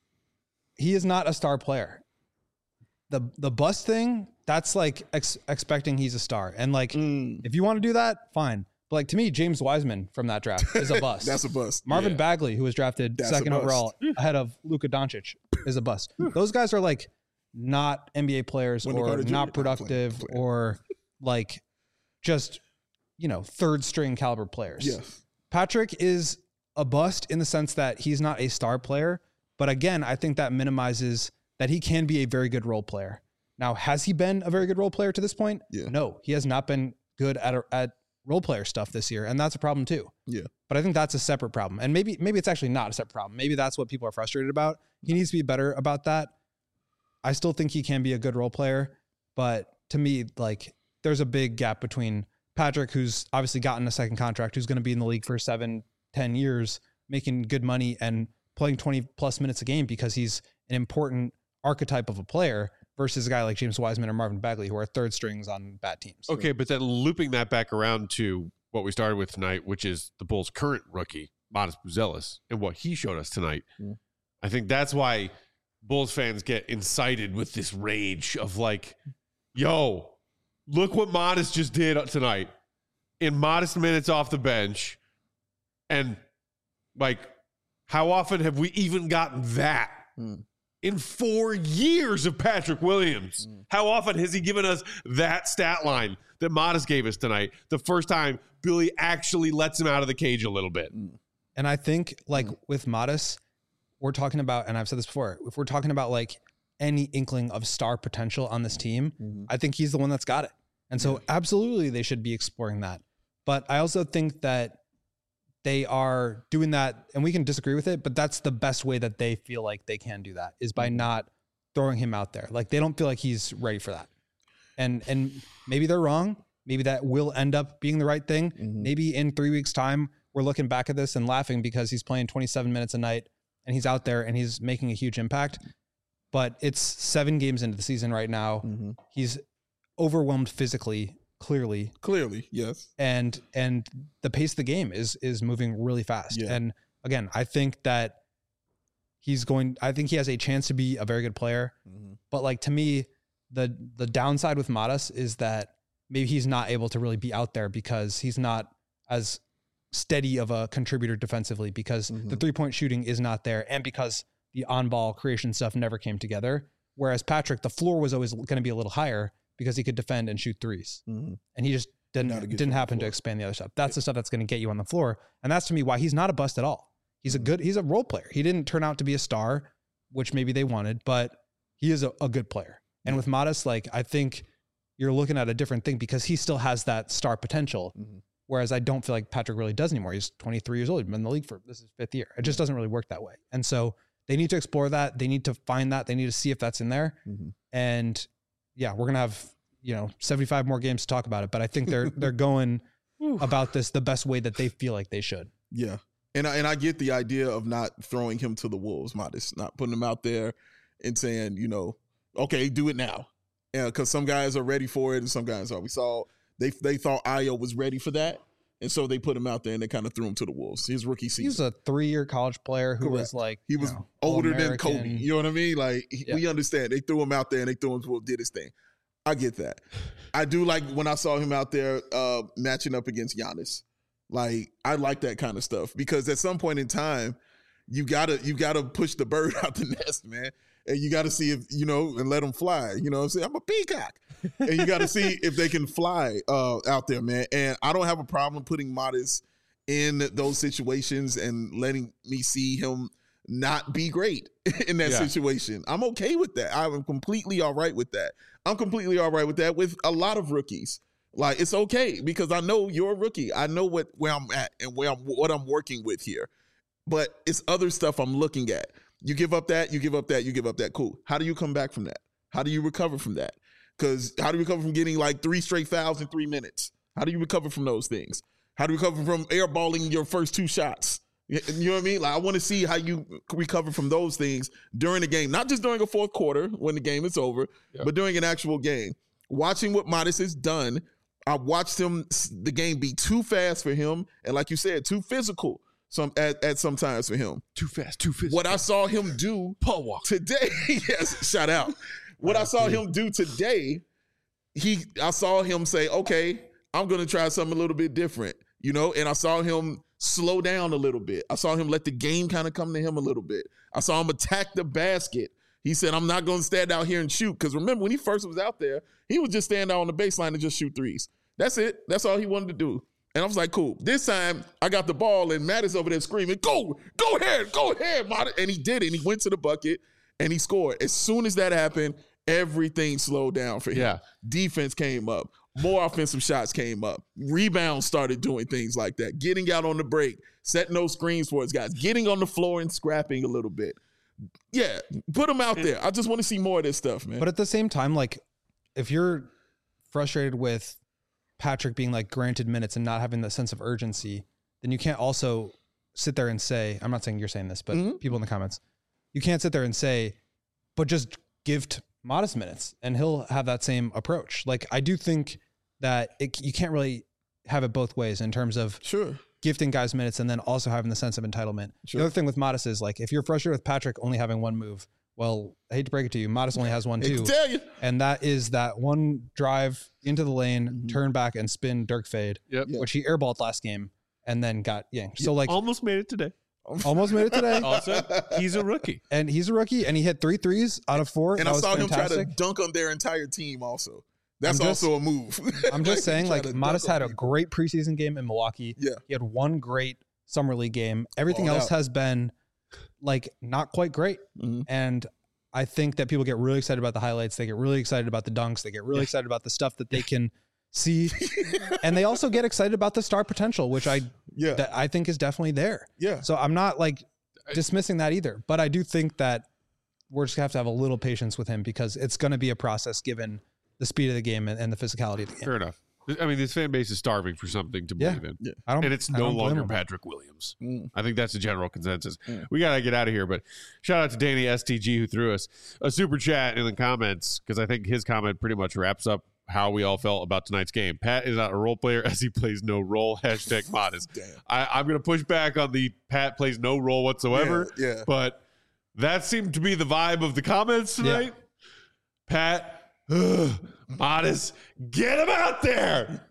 [SPEAKER 3] he is not a star player. The the bust thing, that's like ex- expecting he's a star. And like,
[SPEAKER 2] Mm.
[SPEAKER 3] if you want to do that, fine. But like to me, James Wiseman from that draft is a bust.
[SPEAKER 2] That's a bust.
[SPEAKER 3] Marvin
[SPEAKER 1] Yeah.
[SPEAKER 3] Bagley, who was drafted
[SPEAKER 2] That's a
[SPEAKER 3] second
[SPEAKER 2] bust.
[SPEAKER 3] overall ahead of Luka Doncic, is a bust. Those guys are like not N B A players
[SPEAKER 2] Wendell
[SPEAKER 3] or
[SPEAKER 2] Carter Junior
[SPEAKER 3] not
[SPEAKER 2] not playing,
[SPEAKER 3] productive
[SPEAKER 2] playing.
[SPEAKER 3] or like just, you know, third string caliber players.
[SPEAKER 2] Yes.
[SPEAKER 3] Patrick is a bust in the sense that he's not a star player. But again, I think that minimizes that he can be a very good role player. Now, has he been a very good role player to this point?
[SPEAKER 2] Yeah.
[SPEAKER 3] No, he has not been good at, at role player stuff this year. And that's a problem too.
[SPEAKER 2] Yeah.
[SPEAKER 3] But I think that's a separate problem. And maybe, maybe it's actually not a separate problem. Maybe that's what people are frustrated about. He needs to be better about that. I still think he can be a good role player, but to me, like there's a big gap between Patrick, who's obviously gotten a second contract, who's going to be in the league for seven, ten years, making good money and playing twenty plus minutes a game because he's an important archetype of a player, versus a guy like James Wiseman or Marvin Bagley, who are third strings on bad teams.
[SPEAKER 1] Okay, but then looping that back around to what we started with tonight, which is the Bulls' current rookie, Modest Buzelis, and what he showed us tonight.
[SPEAKER 2] Mm.
[SPEAKER 1] I think that's why Bulls fans get incited with this rage of like, yo, look what Modest just did tonight in modest minutes off the bench. And like, how often have we even gotten that?
[SPEAKER 2] Mm.
[SPEAKER 1] In four years of Patrick Williams,
[SPEAKER 2] Mm.
[SPEAKER 1] how often has he given us that stat line that Modest gave us tonight? The first time Billy actually lets him out of the cage a little bit.
[SPEAKER 3] And I think like with Modest, we're talking about, and I've said this before, if we're talking about like any inkling of star potential on this team,
[SPEAKER 2] Mhm.
[SPEAKER 3] I think he's the one that's got it. And so absolutely they should be exploring that. But I also think that they are doing that, and we can disagree with it, but that's the best way that they feel like they can do that, is by not throwing him out there. Like they don't feel like he's ready for that. And and maybe they're wrong. Maybe that will end up being the right thing.
[SPEAKER 2] Mhm.
[SPEAKER 3] Maybe in three weeks' time, we're looking back at this and laughing because he's playing twenty-seven minutes a night and he's out there and he's making a huge impact. But it's seven games into the season right now.
[SPEAKER 2] Mhm.
[SPEAKER 3] He's overwhelmed physically, clearly,
[SPEAKER 2] Clearly, yes.
[SPEAKER 3] and and the pace of the game is is moving really fast.
[SPEAKER 2] Yeah.
[SPEAKER 3] And again, I think that he's going. I think he has a chance to be a very good player.
[SPEAKER 2] Mhm.
[SPEAKER 3] But like to me, the the downside with Modest is that maybe he's not able to really be out there because he's not as steady of a contributor defensively, because the
[SPEAKER 2] Mhm.
[SPEAKER 3] three point shooting is not there, and because the on ball creation stuff never came together. Whereas Patrick, the floor was always going to be a little higher because he could defend and shoot threes,
[SPEAKER 2] Mhm.
[SPEAKER 3] and he just didn't
[SPEAKER 2] Not a good
[SPEAKER 3] didn't
[SPEAKER 2] shot
[SPEAKER 3] happen to
[SPEAKER 2] floor.
[SPEAKER 3] expand the other stuff. That's the stuff that's going to get you on the floor, and that's to me why he's not a bust at all. He's a
[SPEAKER 2] Mhm.
[SPEAKER 3] good, he's a role player. He didn't turn out to be a star, which maybe they wanted, but he is a, a good player. And with Modest, like I think you're looking at a different thing because he still has that star potential.
[SPEAKER 2] Mhm.
[SPEAKER 3] Whereas I don't feel like Patrick really does anymore. He's twenty-three years old, been in the league for this is fifth year. It just doesn't really work that way. And so they need to explore that. They need to find that. They need to see if that's in there.
[SPEAKER 2] Mhm.
[SPEAKER 3] And yeah, we're gonna have, you know, seventy-five more games to talk about it. But I think they're they're going about this the best way that they feel like they should.
[SPEAKER 2] Yeah. And I, and I get the idea of not throwing him to the wolves, Modest, not putting him out there and saying, you know, okay, do it now. Yeah, because some guys are ready for it and some guys are. We saw they they thought Ayo was ready for that. And so they put him out there and they kind of threw him to the wolves. His rookie
[SPEAKER 3] He was
[SPEAKER 2] season.
[SPEAKER 3] a three-year college player who was
[SPEAKER 2] Correct.
[SPEAKER 3] like
[SPEAKER 2] He
[SPEAKER 3] you
[SPEAKER 2] was
[SPEAKER 3] know,
[SPEAKER 2] older than
[SPEAKER 3] All-American.
[SPEAKER 2] Kobe. You know what I mean? Like, he-
[SPEAKER 3] Yeah.
[SPEAKER 2] we understand. They threw him out there and they threw him to did his thing. I get that. I do like when I saw him out there uh, matching up against Giannis. Like, I like that kind of stuff because at some point in time, you gotta you gotta push the bird out the nest, man. And you gotta see if, you know, and let them fly. You know what I'm saying? I'm a peacock. And you gotta see if they can fly uh, out there, man. And I don't have a problem putting Modest in those situations and letting me see him not be great in that
[SPEAKER 1] Yeah.
[SPEAKER 2] situation. I'm okay with that. I'm completely all right with that. I'm completely all right with that with a lot of rookies. Like, it's okay because I know you're a rookie. I know what where I'm at and where I'm what I'm working with here. but it's other stuff I'm looking at. You give up that, you give up that, you give up that. Cool. How do you come back from that? How do you recover from that? Because how do you recover from getting like three straight fouls in three minutes? How do you recover from those things? How do you recover from airballing your first two shots? You know what I mean? Like I want to see how you recover from those things during the game, not just during a fourth quarter when the game is over, yep. but during an actual game. Watching what Modest has done, I watched him, the game be too fast for him, and like you said, too physical. Some at, at some times for him.
[SPEAKER 1] Too fast, too physical.
[SPEAKER 2] What I saw him do
[SPEAKER 1] Paul Walker.
[SPEAKER 2] today, yes, shout out. What I saw him do today, he I saw him say, okay, I'm gonna try something a little bit different, you know, and I saw him slow down a little bit. I saw him let the game kind of come to him a little bit. I saw him attack the basket. He said, I'm not gonna stand out here and shoot. Because remember, when he first was out there, he would just stand out on the baseline and just shoot threes. That's it. That's all he wanted to do. And I was like, cool. This time, I got the ball, and Matt is over there screaming, go, go ahead, go ahead, Matt. And he did it. And he went to the bucket, and he scored. As soon as that happened, everything slowed down for him.
[SPEAKER 1] Yeah.
[SPEAKER 2] Defense came up. More offensive shots came up. Rebounds started doing things like that. Getting out on the break, setting those screens for his guys. Getting on the floor and scrapping a little bit. Yeah, put him out there. I just want to see more of this stuff, man.
[SPEAKER 3] But at the same time, like, if you're frustrated with Patrick being like granted minutes and not having the sense of urgency, then you can't also sit there and say, I'm not saying you're saying this, but mm-hmm. people in the comments, you can't sit there and say, but just give t- Modest minutes and he'll have that same approach. Like, I do think that it, you can't really have it both ways in terms of
[SPEAKER 2] sure
[SPEAKER 3] gifting guys minutes and then also having the sense of entitlement.
[SPEAKER 2] Sure.
[SPEAKER 3] The other thing with Modest is like, if you're frustrated with Patrick only having one move, well, I hate to break it to you, Modest only has one
[SPEAKER 2] I
[SPEAKER 3] too.
[SPEAKER 2] can tell you.
[SPEAKER 3] And that is that one drive into the lane,
[SPEAKER 2] Mm-hmm.
[SPEAKER 3] turn back and spin Dirk fade,
[SPEAKER 1] Yep.
[SPEAKER 3] which he airballed last game and then got yanked. So like
[SPEAKER 1] Almost made it today.
[SPEAKER 3] almost made it today.
[SPEAKER 1] Also, he's a rookie.
[SPEAKER 3] And he's a rookie and he hit three threes out of four.
[SPEAKER 2] And
[SPEAKER 3] that
[SPEAKER 2] I
[SPEAKER 3] was
[SPEAKER 2] saw
[SPEAKER 3] fantastic.
[SPEAKER 2] him try to dunk on their entire team also. That's
[SPEAKER 3] I'm just-
[SPEAKER 2] also a move.
[SPEAKER 3] I'm just saying,
[SPEAKER 2] Try
[SPEAKER 3] like,
[SPEAKER 2] to
[SPEAKER 3] Modest
[SPEAKER 2] dunk
[SPEAKER 3] had
[SPEAKER 2] on
[SPEAKER 3] a
[SPEAKER 2] people.
[SPEAKER 3] great preseason game in Milwaukee.
[SPEAKER 2] Yeah.
[SPEAKER 3] He had one great summer league game. Everything
[SPEAKER 2] Balled
[SPEAKER 3] else
[SPEAKER 2] out.
[SPEAKER 3] has been like not quite great.
[SPEAKER 2] Mhm.
[SPEAKER 3] And I think that people get really excited about the highlights. They get really excited about the dunks. They get really excited about the stuff that they can see. And they also get excited about the star potential, which I
[SPEAKER 2] Yeah.
[SPEAKER 3] that I think is definitely there.
[SPEAKER 2] Yeah.
[SPEAKER 3] So I'm not like dismissing that either. But I do think that we're just gonna have to have a little patience with him because it's going to be a process given the speed of the game and, and the physicality of the game.
[SPEAKER 1] Fair enough. I mean, this fan base is starving for something to
[SPEAKER 3] Yeah.
[SPEAKER 1] believe in.
[SPEAKER 2] Yeah.
[SPEAKER 3] I don't,
[SPEAKER 1] And it's
[SPEAKER 3] I
[SPEAKER 1] no
[SPEAKER 3] don't blame
[SPEAKER 1] longer
[SPEAKER 3] him.
[SPEAKER 1] Patrick Williams.
[SPEAKER 2] Mm.
[SPEAKER 1] I think that's the general consensus.
[SPEAKER 2] Mm.
[SPEAKER 1] We got to get out of here, but shout out to Danny S T G who threw us a super chat in the comments because I think his comment pretty much wraps up how we all felt about tonight's game. Pat is not a role player as he plays no role. Hashtag Modest.
[SPEAKER 2] Damn.
[SPEAKER 1] I, I'm going to push back on the Pat plays no role whatsoever.
[SPEAKER 2] Yeah, yeah.
[SPEAKER 1] But that seemed to be the vibe of the comments tonight. Pat, ugh, Modest, get him out there.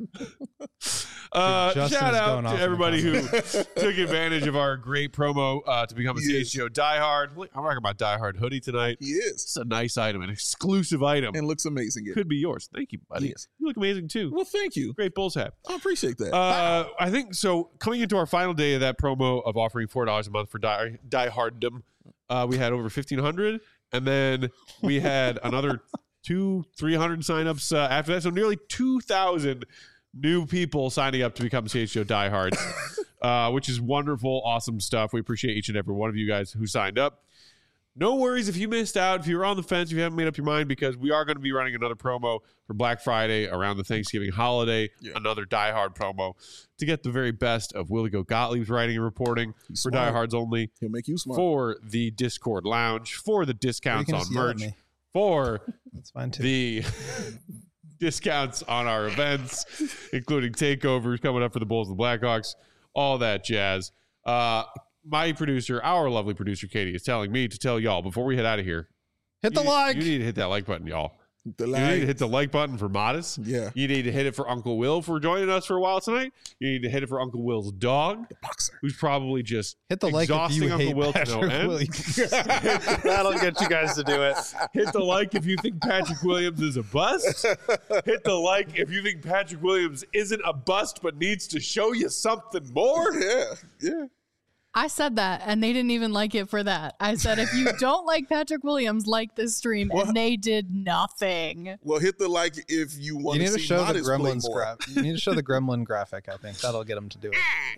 [SPEAKER 1] Uh,
[SPEAKER 3] Justin's
[SPEAKER 1] shout out
[SPEAKER 3] going off
[SPEAKER 1] to
[SPEAKER 3] in the
[SPEAKER 1] everybody who took advantage of our great promo uh, to become a
[SPEAKER 2] He
[SPEAKER 1] C
[SPEAKER 2] is.
[SPEAKER 1] H G O diehard. Look, I'm talking about diehard hoodie tonight.
[SPEAKER 2] He is.
[SPEAKER 1] It's a nice item, an exclusive item.
[SPEAKER 2] And looks amazing.
[SPEAKER 1] Could be yours. Thank you, buddy.
[SPEAKER 2] Yes.
[SPEAKER 1] You look amazing too.
[SPEAKER 2] Well, thank you.
[SPEAKER 1] Great Bulls hat.
[SPEAKER 2] I appreciate that.
[SPEAKER 1] Uh, I think so. Coming into our final day of that promo of offering four dollars a month for die dieharddom, uh, we had over fifteen hundred, and then we had another two, three hundred signups uh, after that. So nearly two thousand new people signing up to become C H G O diehards, uh, which is wonderful, awesome stuff. We appreciate each and every one of you guys who signed up. No worries if you missed out, if you're on the fence, if you haven't made up your mind, because we are going to be running another promo for Black Friday around the Thanksgiving holiday,
[SPEAKER 2] Yeah.
[SPEAKER 1] another Die Hard promo to get the very best of Willie Go Gottlieb's writing and reporting
[SPEAKER 2] He's
[SPEAKER 1] for
[SPEAKER 2] smart.
[SPEAKER 1] diehards only,
[SPEAKER 2] He'll make you smart.
[SPEAKER 1] for the Discord Lounge, for the
[SPEAKER 3] You
[SPEAKER 1] discounts
[SPEAKER 3] can
[SPEAKER 1] on
[SPEAKER 3] just yell at
[SPEAKER 1] merch,
[SPEAKER 3] me.
[SPEAKER 1] for
[SPEAKER 3] That's fine too.
[SPEAKER 1] the discounts on our events, including takeovers coming up for the Bulls and the Blackhawks, all that jazz. Uh, my producer, our lovely producer, Katie, is telling me to tell y'all before we head out of here,
[SPEAKER 3] Hit the
[SPEAKER 1] you,
[SPEAKER 3] like.
[SPEAKER 1] You need to hit that like button, y'all.
[SPEAKER 2] The
[SPEAKER 1] You need
[SPEAKER 2] line.
[SPEAKER 1] to hit the like button for Modest.
[SPEAKER 2] Yeah.
[SPEAKER 1] You need to hit it for Uncle Will for joining us for a while tonight. You need to hit it for Uncle Will's dog,
[SPEAKER 2] Boxer.
[SPEAKER 1] who's probably just
[SPEAKER 3] Hit the like if
[SPEAKER 1] exhausting
[SPEAKER 3] you
[SPEAKER 1] Uncle
[SPEAKER 3] hate
[SPEAKER 1] Will to no
[SPEAKER 3] Patrick
[SPEAKER 1] end.
[SPEAKER 3] Williams.
[SPEAKER 6] That'll get you guys to do it.
[SPEAKER 1] Hit the like if you think Patrick Williams is a bust. Hit the like if you think Patrick Williams isn't a bust but needs to show you something more.
[SPEAKER 2] Yeah. Yeah.
[SPEAKER 4] I said that, and they didn't even like it for that. I said, if you don't like Patrick Williams, like this stream,
[SPEAKER 2] What?
[SPEAKER 4] and they did nothing.
[SPEAKER 2] Well, hit the like if you want
[SPEAKER 3] You need
[SPEAKER 2] to
[SPEAKER 3] to
[SPEAKER 2] see
[SPEAKER 3] show the
[SPEAKER 2] Modest play
[SPEAKER 3] gremlins
[SPEAKER 2] more.
[SPEAKER 3] graphic. You need to show the gremlin graphic. I think that'll get them to do it.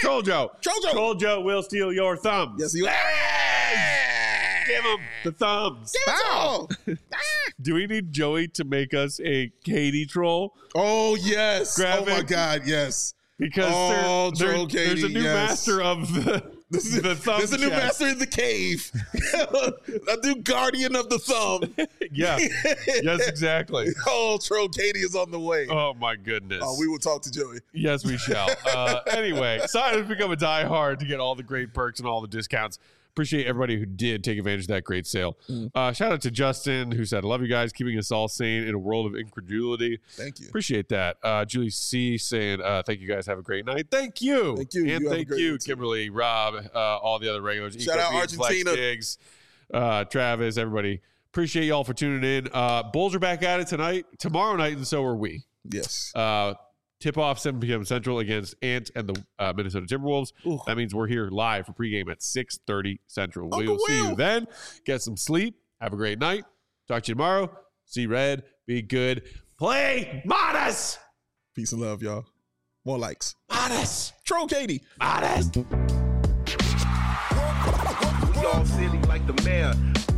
[SPEAKER 1] Troll Joe.
[SPEAKER 2] Troll Joe.
[SPEAKER 1] Troll Joe will steal your thumbs.
[SPEAKER 2] Yes, he will.
[SPEAKER 1] Give him the thumbs.
[SPEAKER 2] Bow.
[SPEAKER 1] Do we need Joey to make us a Katie troll?
[SPEAKER 2] Oh, yes.
[SPEAKER 1] Grab
[SPEAKER 2] oh, my
[SPEAKER 1] it.
[SPEAKER 2] God, yes.
[SPEAKER 1] Because
[SPEAKER 2] Oh,
[SPEAKER 1] there, there-
[SPEAKER 2] Troll Katie,
[SPEAKER 1] there's a new
[SPEAKER 2] yes.
[SPEAKER 1] master of the, the thumb
[SPEAKER 2] There's a new
[SPEAKER 1] chest.
[SPEAKER 2] master in the cave. A new guardian of the thumb.
[SPEAKER 1] Yeah. Yes, exactly.
[SPEAKER 2] Oh, Troll Katie is on the way. Oh,
[SPEAKER 1] Oh, my goodness.
[SPEAKER 2] we will talk to Joey.
[SPEAKER 1] Yes, we shall. Uh, anyway, sign up to become a diehard to get all the great perks and all the discounts. Appreciate everybody who did take advantage of that great sale.
[SPEAKER 2] Mm.
[SPEAKER 1] Uh, shout out to Justin, who said, I love you guys, keeping us all sane in a world of incredulity.
[SPEAKER 2] Thank you.
[SPEAKER 1] Appreciate that. Uh, Julie C saying, uh, thank you guys. Have a great night. Thank you.
[SPEAKER 2] Thank you.
[SPEAKER 1] And
[SPEAKER 2] You have a
[SPEAKER 1] thank
[SPEAKER 2] great
[SPEAKER 1] you,
[SPEAKER 2] night, too.
[SPEAKER 1] Kimberly, Rob, uh, all the other regulars.
[SPEAKER 2] Shout out
[SPEAKER 1] Eco Beat, Flex
[SPEAKER 2] Argentina.
[SPEAKER 1] Diggs, uh, Travis, everybody. Appreciate y'all for tuning in. Uh, Bulls are back at it tonight, tomorrow night, and so are we.
[SPEAKER 2] Yes.
[SPEAKER 1] Uh, tip off seven p.m. Central against Ant and the uh, Minnesota Timberwolves.
[SPEAKER 2] Ooh.
[SPEAKER 1] That means we're here live for pregame at six thirty Central. We
[SPEAKER 2] Uncle
[SPEAKER 1] will see you
[SPEAKER 2] Will.
[SPEAKER 1] then. Get some sleep. Have a great night. Talk to you tomorrow. See red. Be good. Play modest.
[SPEAKER 2] Peace and love, y'all. More likes.
[SPEAKER 1] Modest.
[SPEAKER 2] Troll Katie.
[SPEAKER 1] Modest.
[SPEAKER 7] We all silly like the mayor.